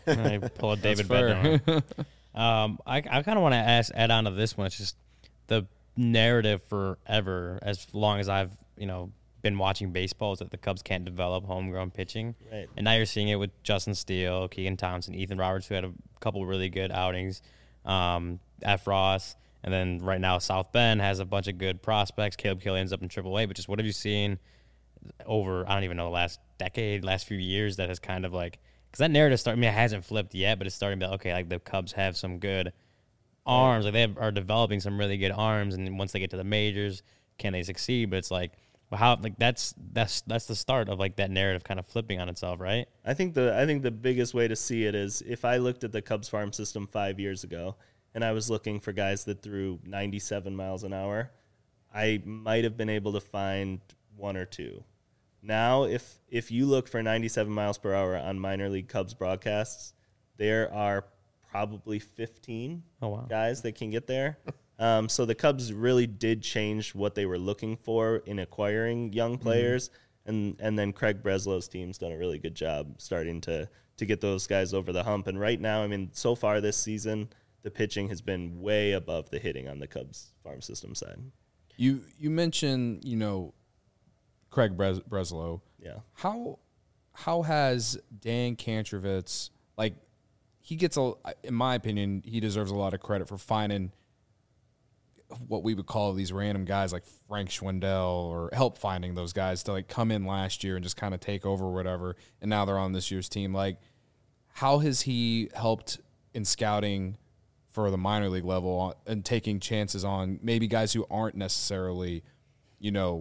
I pull a David Bednar. um, I I kind of want to ask add on to this one. It's just the narrative forever, as long as I've you know been watching baseball, is that the Cubs can't develop homegrown pitching. Right. And now you're seeing it with Justin Steele, Keegan Thompson, Ethan Roberts, who had a couple really good outings. Um, F. Ross, and then right now South Bend has a bunch of good prospects. Caleb Killian's up in triple A, but just what have you seen over, I don't even know, the last decade, last few years that has kind of like because that narrative start. I mean, it hasn't flipped yet, but it's starting to be okay. Like the Cubs have some good arms. Like they have, are developing some really good arms, and once they get to the majors, can they succeed? But it's like, well, how like that's that's that's the start of like that narrative kind of flipping on itself, right? I think the I think the biggest way to see it is if I looked at the Cubs farm system five years ago and I was looking for guys that threw ninety-seven miles an hour, I might have been able to find one or two. Now, if if you look for ninety-seven miles per hour on minor league Cubs broadcasts, there are probably fifteen Oh, wow. guys that can get there. Um, so the Cubs really did change what they were looking for in acquiring young players, mm-hmm. and and then Craig Breslow's team's done a really good job starting to to get those guys over the hump. And right now, I mean, so far this season, the pitching has been way above the hitting on the Cubs farm system side. You you mentioned, you know, Craig Bres- Breslow. Yeah. How how has Dan Kantrovitz, like, he gets a, in my opinion, he deserves a lot of credit for finding what we would call these random guys like Frank Schwindel, or help finding those guys to like come in last year and just kind of take over or whatever, and now they're on this year's team. Like, how has he helped in scouting for the minor league level and taking chances on maybe guys who aren't necessarily, you know,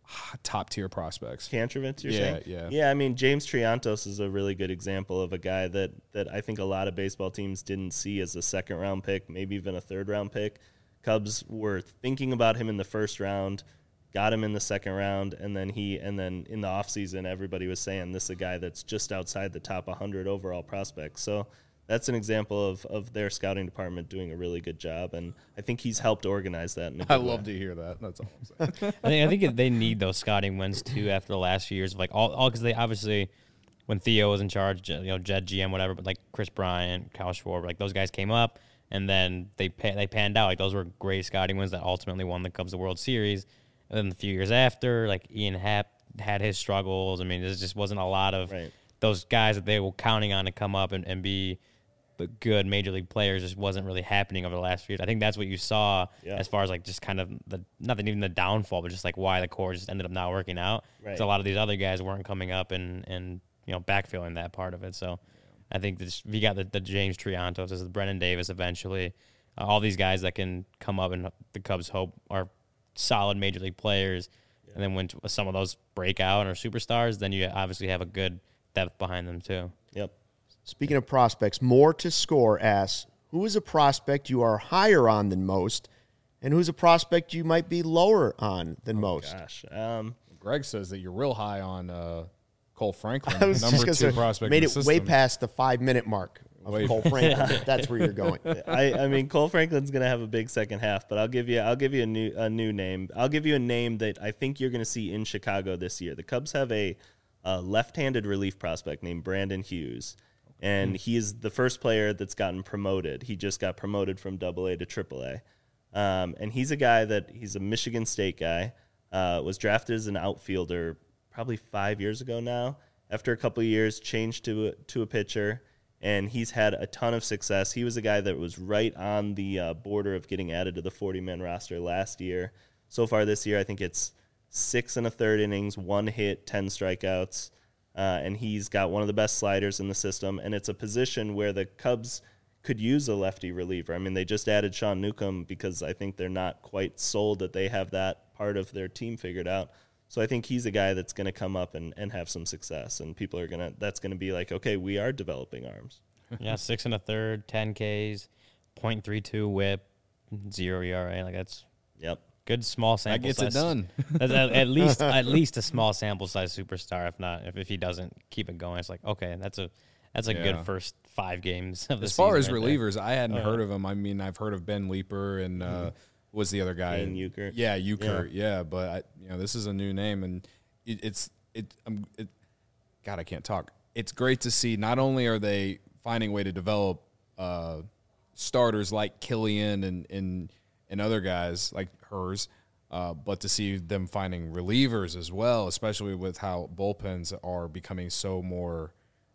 top tier prospects? Kantrovitz, you're yeah, saying? Yeah, yeah. I mean, James Triantos is a really good example of a guy that that I think a lot of baseball teams didn't see as a second round pick, maybe even a third round pick. Cubs were thinking about him in the first round, got him in the second round, and then he and then in the offseason, everybody was saying this is a guy that's just outside the top one hundred overall prospects. So that's an example of, of their scouting department doing a really good job, and I think he's helped organize that. In a good I love way. to hear that. That's all I'm saying. I think I think they need those scouting wins too after the last few years of like all all because they obviously when Theo was in charge, you know, Jed G M whatever, but like Chris Bryant, Kyle Schwarber, like those guys came up. And then they pan, they panned out. Like those were great scouting wins that ultimately won the Cubs the World Series. And then a few years after, like Ian Happ had his struggles. I mean, there just wasn't a lot of right. those guys that they were counting on to come up and, and be the good major league players. Just wasn't really happening over the last few years. I think that's what you saw yeah. as far as like just kind of the not even the downfall, but just like why the core just ended up not working out. Right. So a lot of these other guys weren't coming up and and you know backfilling that part of it. So. I think this, we got the, the James Triantos, the Brennan Davis eventually, uh, all these guys that can come up and the Cubs hope are solid major league players. Yeah. And then when some of those break out or superstars, then you obviously have a good depth behind them too. Yep. Speaking of prospects, More to Score asks, who is a prospect you are higher on than most, and who's a prospect you might be lower on than oh most? Gosh. Um, Greg says that you're real high on uh, Cole Franklin, I was the number just two say, prospect. Made in it the way system. past the five minute mark of Way- Cole Franklin. That's where you're going. I, I mean, Cole Franklin's going to have a big second half, but I'll give you I'll give you a new a new name. I'll give you a name that I think you're going to see in Chicago this year. The Cubs have a, a left-handed relief prospect named Brandon Hughes, and he is the first player that's gotten promoted. He just got promoted from Double A to Triple A, um, and he's a guy that he's a Michigan State guy. Uh, was drafted as an outfielder probably five years ago now. After a couple of years, changed to a, to a pitcher, and he's had a ton of success. He was a guy that was right on the uh, border of getting added to the forty-man roster last year. So far this year, I think it's six and a third innings, one hit, ten strikeouts, uh, and he's got one of the best sliders in the system, and it's a position where the Cubs could use a lefty reliever. I mean, they just added Sean Newcomb because I think they're not quite sold that they have that part of their team figured out. So I think he's a guy that's going to come up and, and have some success, and people are going to, that's going to be like, okay, we are developing arms. Yeah, six and a third, ten Ks, point three two whip, zero E R A. Like that's Yep. good small That sample gets size. it done. That's at, at least at least a small sample size superstar. If not, if, if he doesn't keep it going, it's like okay, that's a that's a Yeah. good first five games of the As far as season right there. relievers, I hadn't Oh, heard yeah. of him. I mean, I've heard of Ben Leeper and uh, was the other guy? Kane Euchert. Yeah, Euchert. Yeah. yeah, but I, you know, this is a new name, and it, it's it, um, it. God, I can't talk. It's great to see. Not only are they finding a way to develop uh, starters like Killian and and and other guys like hers, uh, but to see them finding relievers as well, especially with how bullpens are becoming so more.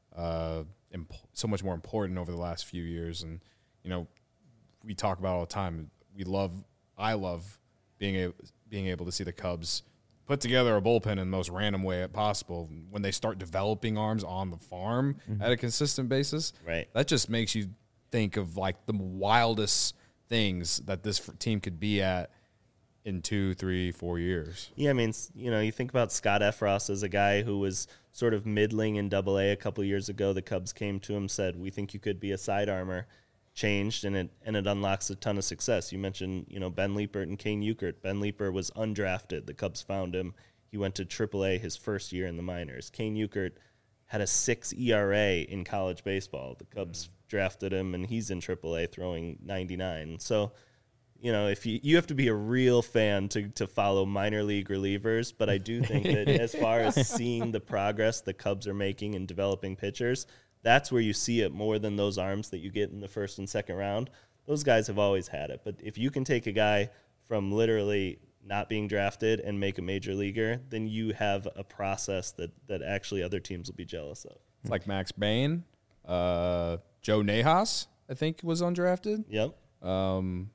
Uh, imp- so much more important over the last few years, and you know, we talk about all the time. We love, I love being able being able to see the Cubs put together a bullpen in the most random way possible. When they start developing arms on the farm mm-hmm. at a consistent basis, right. that just makes you think of like the wildest things that this team could be at in two, three, four years. Yeah, I mean, you know, you think about Scott Effross as a guy who was sort of middling in Double A a couple years ago. The Cubs came to him, said, "We think you could be a side armor." Changed, and it and it unlocks a ton of success. You mentioned, you know, Ben Liepert and Kane Ukert. Ben Liepert was undrafted. The Cubs found him. He went to Triple A his first year in the minors. Kane Ukert had a six E R A in college baseball. The Cubs mm. drafted him, and he's in Triple A throwing ninety-nine. So, you know, if you you have to be a real fan to to follow minor league relievers, but I do think that as far as seeing the progress the Cubs are making in developing pitchers, that's where you see it more than those arms that you get in the first and second round. Those guys have always had it. But if you can take a guy from literally not being drafted and make a major leaguer, then you have a process that, that actually other teams will be jealous of. It's like Max Bain, uh, Joe Nahas, I think, was undrafted. Yep. Um,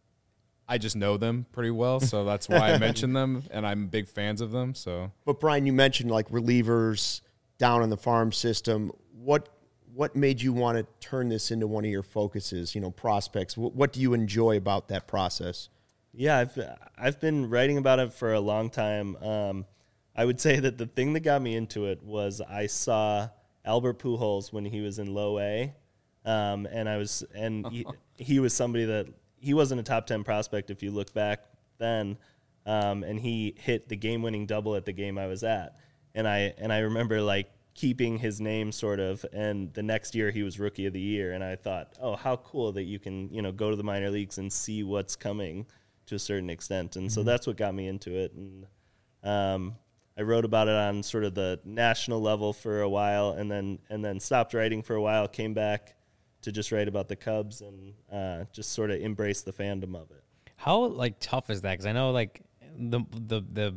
I just know them pretty well, so that's why I mention them, and I'm big fans of them. So, But, Brian, you mentioned like relievers down in the farm system. What what made you want to turn this into one of your focuses, you know, prospects? What, what do you enjoy about that process? Yeah, I've I've been writing about it for a long time. Um, I would say that the thing that got me into it was I saw Albert Pujols when he was in Low A, um, and I was and he, he was somebody that he wasn't a top ten prospect if you look back then, um, and he hit the game-winning double at the game I was at, and I and I remember like keeping his name sort of, and the next year he was Rookie of the Year, and I thought, oh, how cool that you can, you know, go to the minor leagues and see what's coming to a certain extent, and mm-hmm. so that's what got me into it, and um, I wrote about it on sort of the national level for a while, and then and then stopped writing for a while, came back to just write about the Cubs, and uh, just sort of embrace the fandom of it. How like tough is that? Because I know like the the the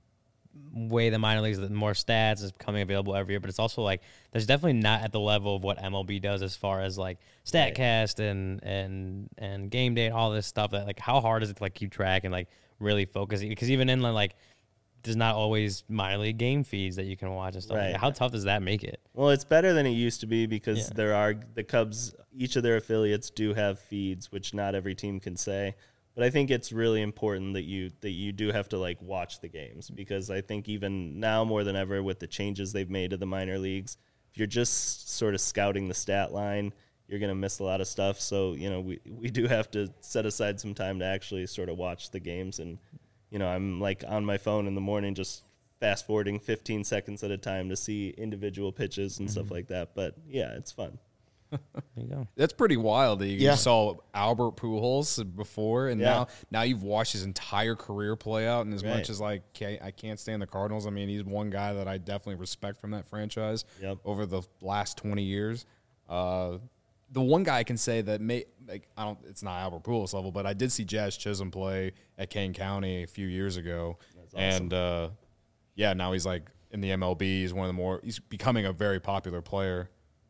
way the minor leagues, the more stats is becoming available every year, but it's also like there's definitely not at the level of what M L B does as far as like StatCast right. and and and game day and all this stuff. That like how hard is it to like keep track and like really focus? Because even in like there's not always minor league game feeds that you can watch and stuff. Right. Like, how tough does that make it? Well, it's better than it used to be because yeah. there are the Cubs. Each of their affiliates do have feeds, which not every team can say. But I think it's really important that you that you do have to like watch the games, because I think even now more than ever with the changes they've made to the minor leagues, if you're just sort of scouting the stat line, you're going to miss a lot of stuff. So, you know, we, we do have to set aside some time to actually sort of watch the games. And, you know, I'm like on my phone in the morning just fast forwarding fifteen seconds at a time to see individual pitches and mm-hmm. stuff like that. But, yeah, it's fun. There you go. That's pretty wild that you Yeah. saw Albert Pujols before, and Yeah. now now you've watched his entire career play out. And as Right. much as like okay, I can't stand the Cardinals, I mean he's one guy that I definitely respect from that franchise Yep. over the last twenty years. Uh, the one guy I can say that may like I don't, it's not Albert Pujols level, but I did see Jazz Chisholm play at Kane County a few years ago, That's awesome. and uh, yeah, now he's like in the M L B. He's one of the more he's becoming a very popular player.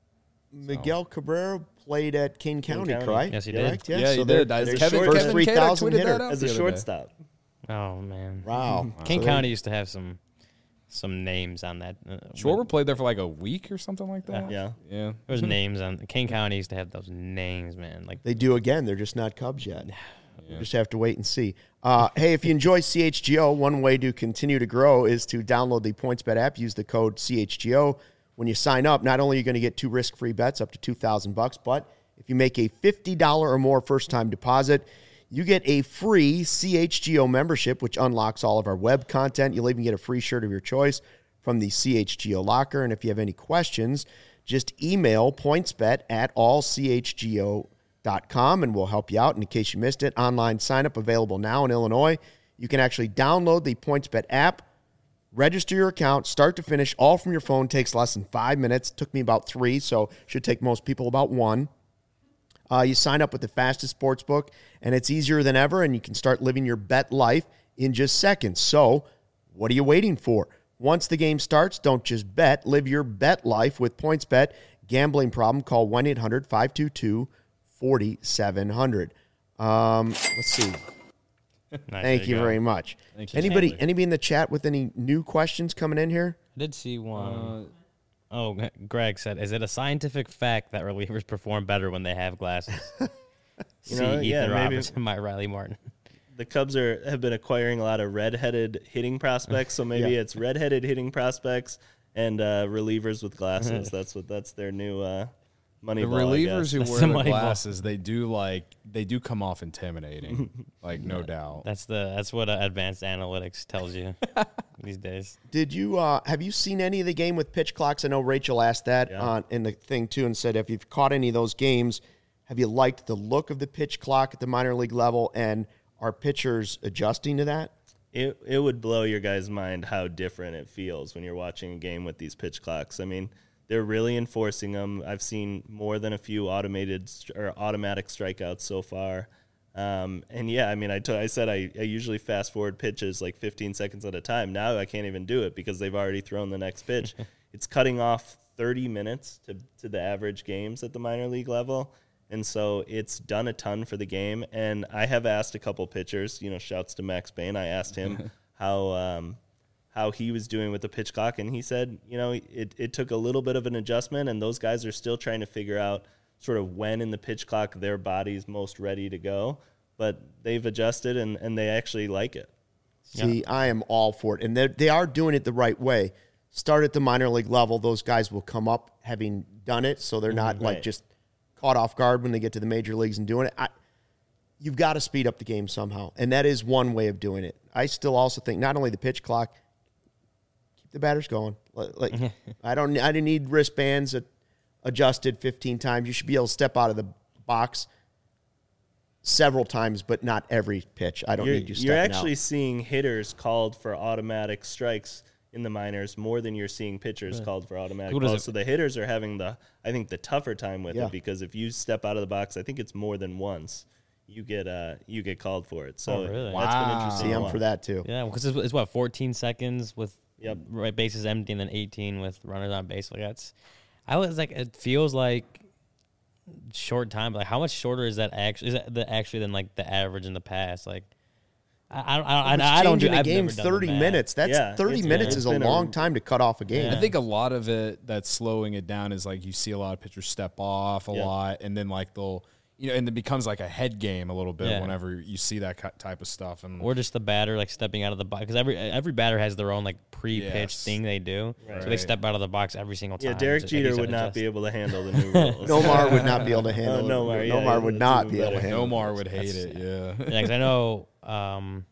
Miguel Cabrera played at Kane County, County. correct? Yes, he did. Correct? Yeah, Yeah, so he they're- did. they're Kevin, short- Kevin three Kane had thousand tweeted hitter. that out As the a other day. shortstop. Oh man. Wow. Kane So County used to have some some names on that. Uh, Schwarber played there for like a week or something like that. Yeah. Yeah. There was names on Kane County used to have those names, man. Like They do again. They're just not Cubs yet. You just have to wait and see. Uh, hey, if you enjoy C H G O, one way to continue to grow is to download the PointsBet app. Use the code C H G O. When you sign up, not only are you going to get two risk-free bets up to two thousand bucks, but if you make a fifty dollars or more first-time deposit, you get a free C H G O membership, which unlocks all of our web content. You'll even get a free shirt of your choice from the C H G O locker. And if you have any questions, just email pointsbet at all c h g o dot com and we'll help you out. And in case you missed it, online sign-up available now in Illinois. You can actually download the PointsBet app, register your account, start to finish, all from your phone. Takes less than five minutes. Took me about three, so should take most people about one. Uh, you sign up with the fastest sports book, and it's easier than ever, and you can start living your bet life in just seconds. So what are you waiting for? Once the game starts, don't just bet. Live your bet life with PointsBet. Gambling problem, call one eight hundred five two two four seven zero zero. Um, let's see. Nice, Thank there you go. very much. Thank you. Anybody Thank anybody in the chat with any new questions coming in here? I did see one. Uh, Oh, G- Greg said, "Is it a scientific fact that relievers perform better when they have glasses?" You See know, Ethan yeah, maybe- Robertson, my Riley Martin. The Cubs are have been acquiring a lot of red-headed hitting prospects, so maybe Yeah. it's red-headed hitting prospects and uh, relievers with glasses. That's what that's their new uh, money the ball, I relievers guess. who That's wear the the money ball. glasses, they do like they do come off intimidating, like no doubt. That's the that's what uh, advanced analytics tells you these days. Did you uh, have you seen any of the game with pitch clocks? I know Rachel asked that Yeah. on in the thing too, and said if you've caught any of those games, have you liked the look of the pitch clock at the minor league level, and are pitchers adjusting to that? It it would blow your guys' mind how different it feels when you're watching a game with these pitch clocks. I mean, they're really enforcing them. I've seen more than a few automated st- or automatic strikeouts so far. Um, and yeah, I mean, I, t- I said I, I usually fast forward pitches like fifteen seconds at a time. Now I can't even do it because they've already thrown the next pitch. It's cutting off thirty minutes to, to the average games at the minor league level. And so it's done a ton for the game. And I have asked a couple pitchers, you know, shouts to Max Bain. I asked him how um, how he was doing with the pitch clock. And he said, you know, it, it took a little bit of an adjustment. And those guys are still trying to figure out sort of when in the pitch clock their body's most ready to go. But they've adjusted and, and they actually like it. See, I am all for it. And they they are doing it the right way. Start at the minor league level. Those guys will come up having done it, so they're not like Right. just caught off guard when they get to the major leagues and doing it. I, you've got to speed up the game somehow, and that is one way of doing it. I still also think not only the pitch clock, keep the batters going. Like like, I don't, I didn't need wristbands at, adjusted fifteen times. You should be able to step out of the box several times, but not every pitch. I don't You're, need you stepping you're actually out. seeing hitters called for automatic strikes in the minors more than you're seeing pitchers called for automatic Who does balls. it- So the hitters are having the, I think, the tougher time with Yeah. it because if you step out of the box, I think it's more than once, you get uh you get called for it. So Oh, really? that's Wow. been interesting. See, to I'm watch. for that too. Yeah, because it's, it's what fourteen seconds with Yep. right bases empty, and then eighteen with runners on base. Like that's, I was like, it feels like short time, but like how much shorter is that actually? Is that the, actually than like the average in the past? Like, I I I, It's I, I don't do. changing a I've game never done the thirty math. minutes. That's Yeah, thirty it's- minutes it's is a been a- long time to cut off a game. Yeah. I think a lot of it that's slowing it down is like you see a lot of pitchers step off a Yeah. lot, and then like they'll, you know, and it becomes like a head game a little bit Yeah. whenever you see that ki- type of stuff. And Or just the batter like stepping out of the box, because every every batter has their own like pre-pitch Yes. thing they do, so they Right. step out of the box every single time. Yeah, Derek So, like Jeter you said, would not adjust. be able to handle the new rules. Nomar would not be able to handle Oh, Nomar, it. yeah, Nomar would that's not even be able to better. handle Nomar it. would hate it. Yeah. Yeah, because I know um,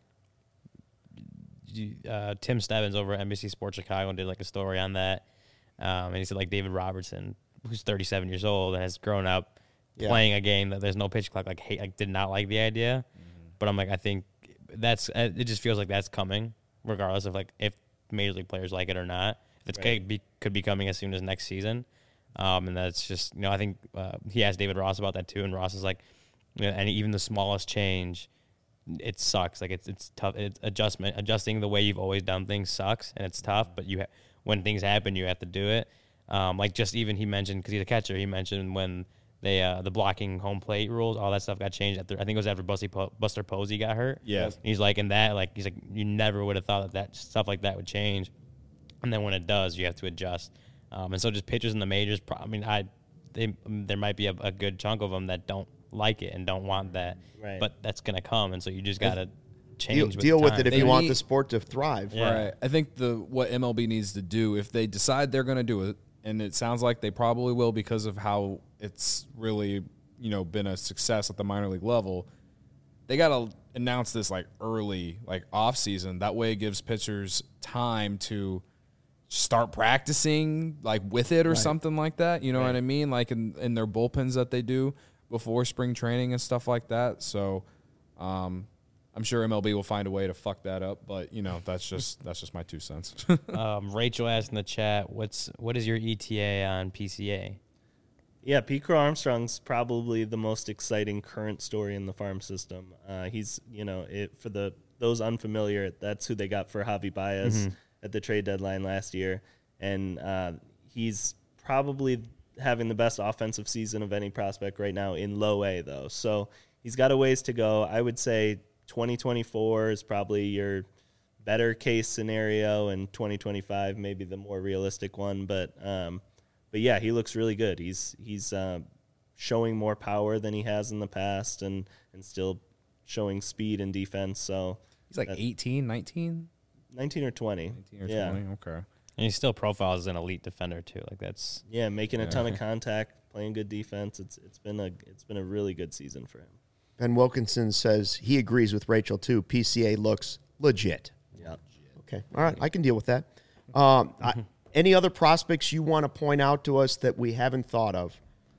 you- uh, Tim Stebbins over at N B C Sports Chicago did like a story on that, um, and he said like David Robertson, who's thirty-seven years old and has grown up Yeah. playing a game that there's no pitch clock, like hate, like did not like the idea, but I'm like I think that's uh, it just feels like that's coming regardless of like if major league players like it or not. It's Right. could be could be coming as soon as next season, um, and that's just you know I think uh, he asked David Ross about that too, and Ross is like, you know, and even the smallest change, it sucks. Like it's it's tough. It's adjustment adjusting the way you've always done things sucks, and it's tough. But you ha- when things happen, you have to do it. Um, like just even he mentioned because he's a catcher. He mentioned when they uh, the blocking home plate rules, all that stuff got changed. After, I think it was after Buster, Po- Buster Posey got hurt. Yes. And he's like, and that like he's like you never would have thought that that stuff like that would change. And then when it does, you have to adjust. Um, and so just pitchers in the majors, pro- I mean, I they, there might be a, a good chunk of them that don't like it and don't want that. Right. But that's going to come. And so you just got to change Deal, with deal the with time. it if They you want need- the sport to thrive. Yeah. Right. I think the what M L B needs to do, if they decide they're going to do it, and it sounds like they probably will because of how it's really, you know, been a success at the minor league level, they got to announce this like early, like off season. That way it gives pitchers time to start practicing like with it or something like that. You know what I mean? Like in, in their bullpens that they do before spring training and stuff like that. So, um, I'm sure M L B will find a way to fuck that up, but you know that's just that's just my two cents. Um, Rachel asked in the chat, "What's what is your E T A on P C A?" Yeah, Pete Crow Armstrong's probably the most exciting current story in the farm system. Uh, he's, you know, it, for the those unfamiliar, that's who they got for Javi Baez at the trade deadline last year, and uh, he's probably having the best offensive season of any prospect right now in low A, though. So he's got a ways to go. I would say twenty twenty-four is probably your better case scenario, and twenty twenty-five maybe the more realistic one. But um, but yeah, he looks really good. He's he's uh, showing more power than he has in the past, and and still showing speed and defense. So He's like eighteen, nineteen? nineteen or twenty. nineteen or yeah. twenty, okay. And he still profiles as an elite defender too. Like that's Yeah, making a Yeah. ton of contact, playing good defense. It's it's been a it's been a really good season for him. Ben Wilkinson says he agrees with Rachel too. P C A looks legit. Yeah. Okay. All right. I can deal with that. Um, I, any other prospects you want to point out to us that we haven't thought of?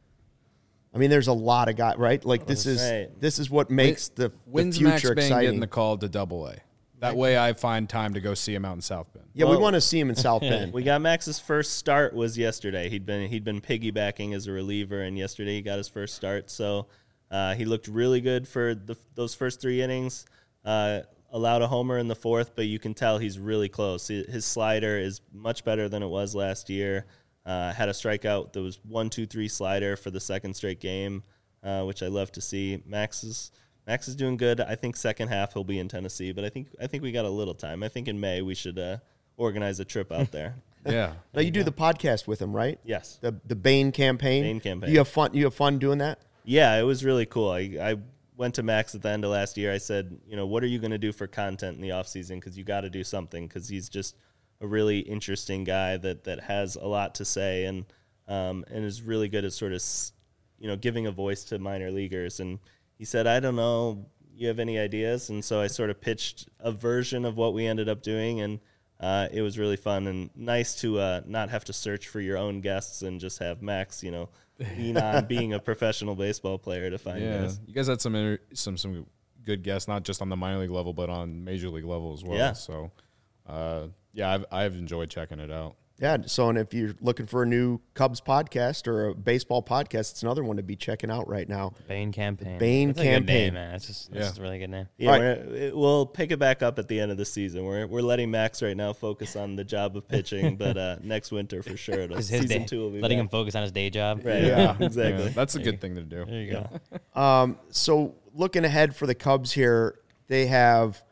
I mean, there's a lot of guys, right? Like this is Right. this is what makes the, the When's Max future Bang exciting. getting the call to Double A? That way, I find time to go see him out in South Bend. yeah, we Well- want to see him in South Bend. We got Max's first start was yesterday. He'd been he'd been piggybacking as a reliever, and yesterday he got his first start. So uh, he looked really good for the, those first three innings. Uh, allowed a homer in the fourth, but you can tell he's really close. His his slider is much better than it was last year. Uh, had a strikeout that was one, two, three slider for the second straight game, uh, which I love to see. Max is Max is doing good. I think second half he'll be in Tennessee, but I think I think we got a little time. I think in May we should uh, organize a trip out there. Yeah. Now you do the podcast with him, right? Yes. The the Bain campaign. Bain campaign. You have fun. You have fun doing that. Yeah, it was really cool. I, I went to Max at the end of last year. I said, you know, what are you going to do for content in the off season? Because you got to do something. Because he's just a really interesting guy that that has a lot to say, and um, and is really good at sort of, you know, giving a voice to minor leaguers. And he said, I don't know, you have any ideas? And so I sort of pitched a version of what we ended up doing, and uh, it was really fun and nice to uh, not have to search for your own guests and just have Max, you know, lean on being a professional baseball player to find Yeah. guys. You guys had some inter- some some good guests, not just on the minor league level, but on major league level as well. Yeah. So, uh, yeah, I've, I've enjoyed checking it out. Yeah. So, and if you're looking for a new Cubs podcast or a baseball podcast, it's another one to be checking out right now. Bain campaign. Bain That's a good campaign. name, man. It's just, Yeah. that's just a really good name. Yeah, All we're, it, we'll pick it back up at the end of the season. We're we're letting Max right now focus on the job of pitching, but uh, next winter for sure, it'll, His, his season day, two will be letting back. him focus on his day job. Right. Yeah. exactly. Yeah, that's a good thing to do. There you go. Um, so looking ahead for the Cubs here, they have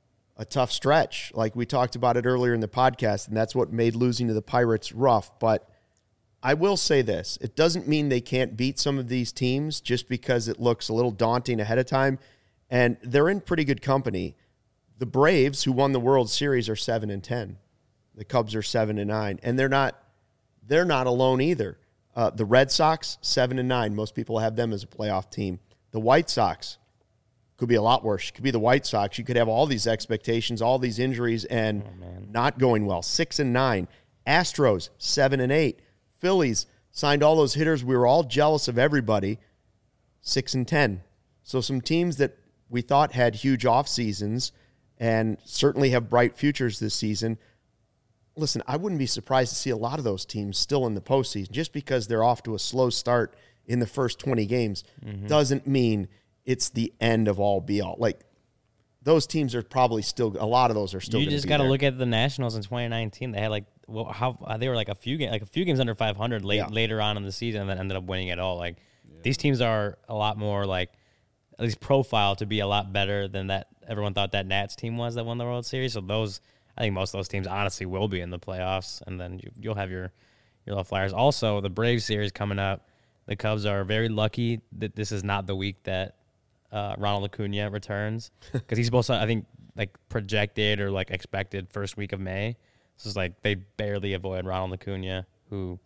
a tough stretch. Like we talked about it earlier in the podcast, and that's what made losing to the Pirates rough. But I will say this. It doesn't mean they can't beat some of these teams just because it looks a little daunting ahead of time. And they're in pretty good company. The Braves, who won the World Series, are seven and ten. The Cubs are seven and nine. And they're not they're not alone either. Uh, the Red Sox, seven and nine. Most people have them as a playoff team. The White Sox could be a lot worse. It could be the White Sox. You could have all these expectations, all these injuries, and not going well. Six and nine. Astros, seven and eight. Phillies signed all those hitters. We were all jealous of everybody. Six and ten. So some teams that we thought had huge off seasons and certainly have bright futures this season. Listen, I wouldn't be surprised to see a lot of those teams still in the postseason. Just because they're off to a slow start in the first twenty games doesn't mean it's the end of all be all. Like, those teams are probably still, a lot of those are still You going to just be got to there. look at the Nationals in twenty nineteen. They had like, well, how uh, they were like a few games, like a few games under five hundred late Yeah. later on in the season, and then ended up winning it all. Like these teams are a lot more like, at least profile to be a lot better than that everyone thought that Nats team was that won the World Series. So those, I think most of those teams honestly will be in the playoffs, and then you, you'll have your your little Flyers. Also, the Braves series coming up. The Cubs are very lucky that this is not the week that uh, Ronald Acuna returns, because he's supposed to, I think, like projected or like expected first week of May. So it's like they barely avoid Ronald Acuna, who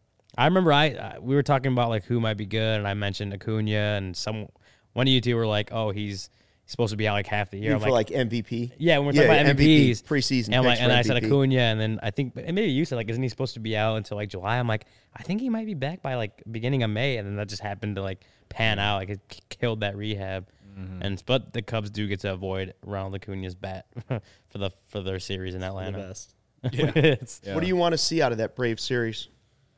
I remember I uh, we were talking about like who might be good, and I mentioned Acuna, and some one of you two were like, oh, he's, he's supposed to be out like half the year. You I'm for like, M V P? yeah, when we're talking about M V Ps, preseason and, I'm like, picks and for I said M V P. Acuna, and then I think, and maybe you said like, isn't he supposed to be out until like July? I'm like, I think he might be back by like beginning of May, and then that just happened to like pan out, like it k- killed that rehab. Mm-hmm. And but the Cubs do get to avoid Ronald Acuna's bat for the for their series in The Atlanta. best. It's- Yeah. What do you want to see out of that Brave series?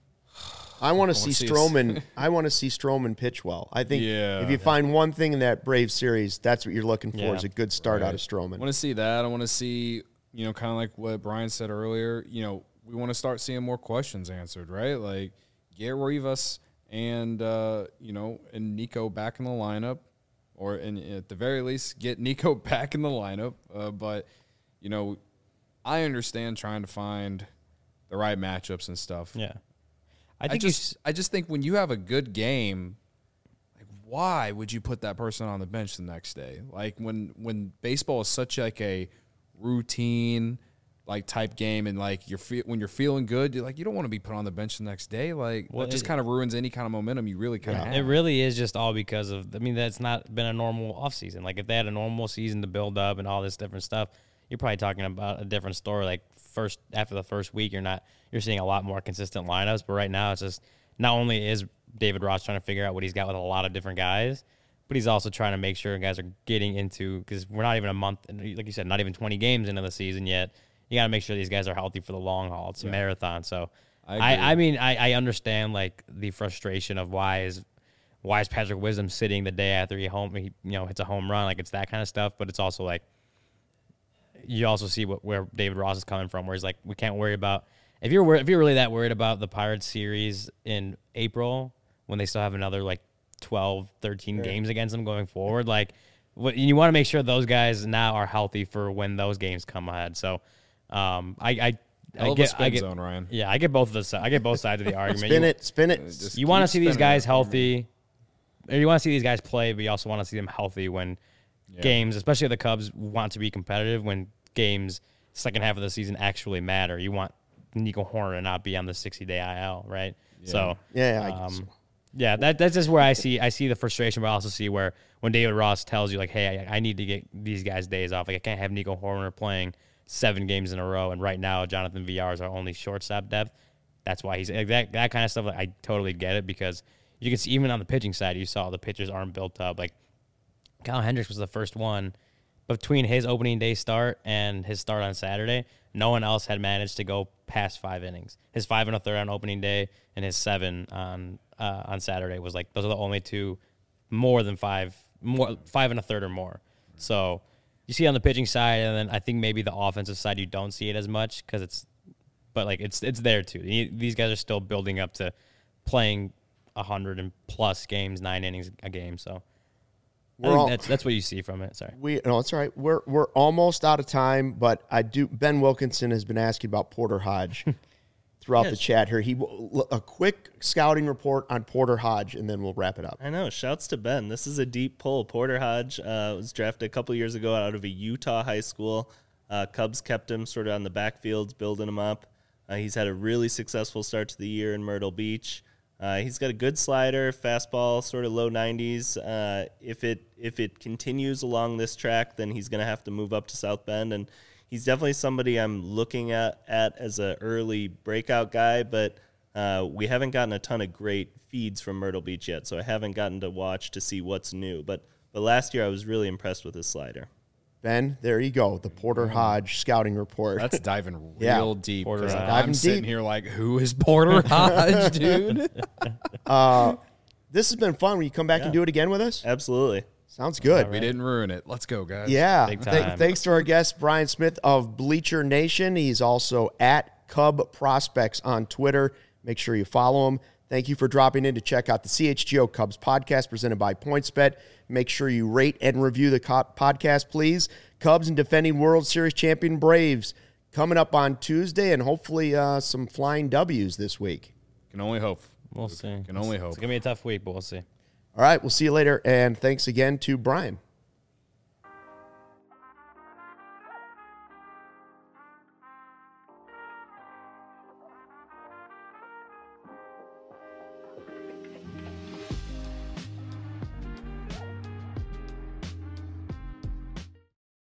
I want to see see us- Stroman. I want to see Stroman pitch well. I think Yeah. if you find one thing in that Brave series, that's what you're looking for, Yeah. is a good start out of I Stroman. want to see that. I want to see, you know, kind of like what Brian said earlier. You know, we want to start seeing more questions answered, right? Like get Rivas and uh, you know, and Nico back in the lineup. or in, at the very least get Nico back in the lineup. Uh, but, you know, I understand trying to find the right matchups and stuff. Yeah. I I think you just, I just think when you have a good game, like why would you put that person on the bench the next day? Like when when baseball is such like a routine like type game, and like you're fe- when you're feeling good, you're like you don't want to be put on the bench the next day. Like Well, that just it- kind of ruins any kind of momentum you really kind of have. It really is just all because of, I mean, that's not been a normal offseason. Like, if they had a normal season to build up and all this different stuff, you're probably talking about a different story. Like, first, after the first week, you're not, you're seeing a lot more consistent lineups. But right now, it's just, not only is David Ross trying to figure out what he's got with a lot of different guys, but he's also trying to make sure guys are getting into, because we're not even a month, like you said, not even twenty games into the season yet. You got to make sure these guys are healthy for the long haul. It's a marathon. So, I I, agree. I mean, I, I understand like the frustration of why is why is Patrick Wisdom sitting the day after he home he you know hits a home run, like it's that kind of stuff. But it's also like you also see what where David Ross is coming from, where he's like, we can't worry about if you're wor- if you're really that worried about the Pirates series in April when they still have another like twelve, thirteen games against them going forward, like what you want to make sure those guys now are healthy for when those games come ahead. So um, I. I Hell I of a get, spin I get, zone, Ryan. yeah, I get both of the si- I get both sides of the argument. Spin You- it, spin it. Just you want to keep see these spinning guys it for me. healthy, or you want to see these guys play, but you also want to see them healthy when Yeah. games, especially if the Cubs want to be competitive, when games second half of the season actually matter. You want Nico Horner to not be on the sixty-day I L, right? So Yeah, I guess um, so. yeah, that that's just where I see I see the frustration, but I also see where when David Ross tells you like, hey, I, I need to get these guys days off. Like I can't have Nico Horner playing seven games in a row, and right now Jonathan Villar is our only shortstop depth. That's why he's like that that kind of stuff. Like, I totally get it, because you can see even on the pitching side, you saw the pitchers aren't built up. Like Kyle Hendricks was the first one between his opening day start and his start on Saturday. No one else had managed to go past five innings. His five and a third on opening day and his seven on uh, on Saturday was like those are the only two more than five more five and a third or more. So you see it on the pitching side, and then I think maybe the offensive side you don't see it as much because it's, but like it's it's there too. These guys are still building up to playing a hundred and plus games, nine innings a game. So I We're think all- that's that's what you see from it. Sorry. We no, it's all right. We're we're almost out of time, but I do. Ben Wilkinson has been asking about Porter Hodge throughout the Yes. chat here. He will- a quick scouting report on Porter Hodge, and then we'll wrap it up. I know. Shouts to Ben. This is a deep pull. Porter Hodge uh, was drafted a couple years ago out of a Utah high school. Uh, Cubs kept him sort of on the backfields, building him up. Uh, he's had a really successful start to the year in Myrtle Beach. Uh, he's got a good slider, fastball, sort of low nineties. Uh, if it if it continues along this track, then he's going to have to move up to South Bend, and he's definitely somebody I'm looking at, at as an early breakout guy, but uh, we haven't gotten a ton of great feeds from Myrtle Beach yet, so I haven't gotten to watch to see what's new. But but last year I was really impressed with his slider. Ben, there you go. The Porter Hodge scouting report. That's diving real Yeah. deep. Porter 'cause Hodge. I'm Diving sitting deep. here like, who is Porter Hodge, dude? This has been fun. Will you come back and do it again with us? Absolutely. Sounds good. We didn't ruin it. Let's go, guys. Yeah. Big Th- time. thanks to our guest, Brian Smith of Bleacher Nation. He's also at Cub Prospects on Twitter. Make sure you follow him. Thank you for dropping in to check out the C H G O Cubs podcast presented by PointsBet. Make sure you rate and review the co- podcast, please. Cubs and defending World Series champion Braves coming up on Tuesday, and hopefully uh, some flying W's this week. Can only hope. We'll see. Can only hope. It's gonna be a tough week, but we'll see. All right, we'll see you later, and thanks again to Brian.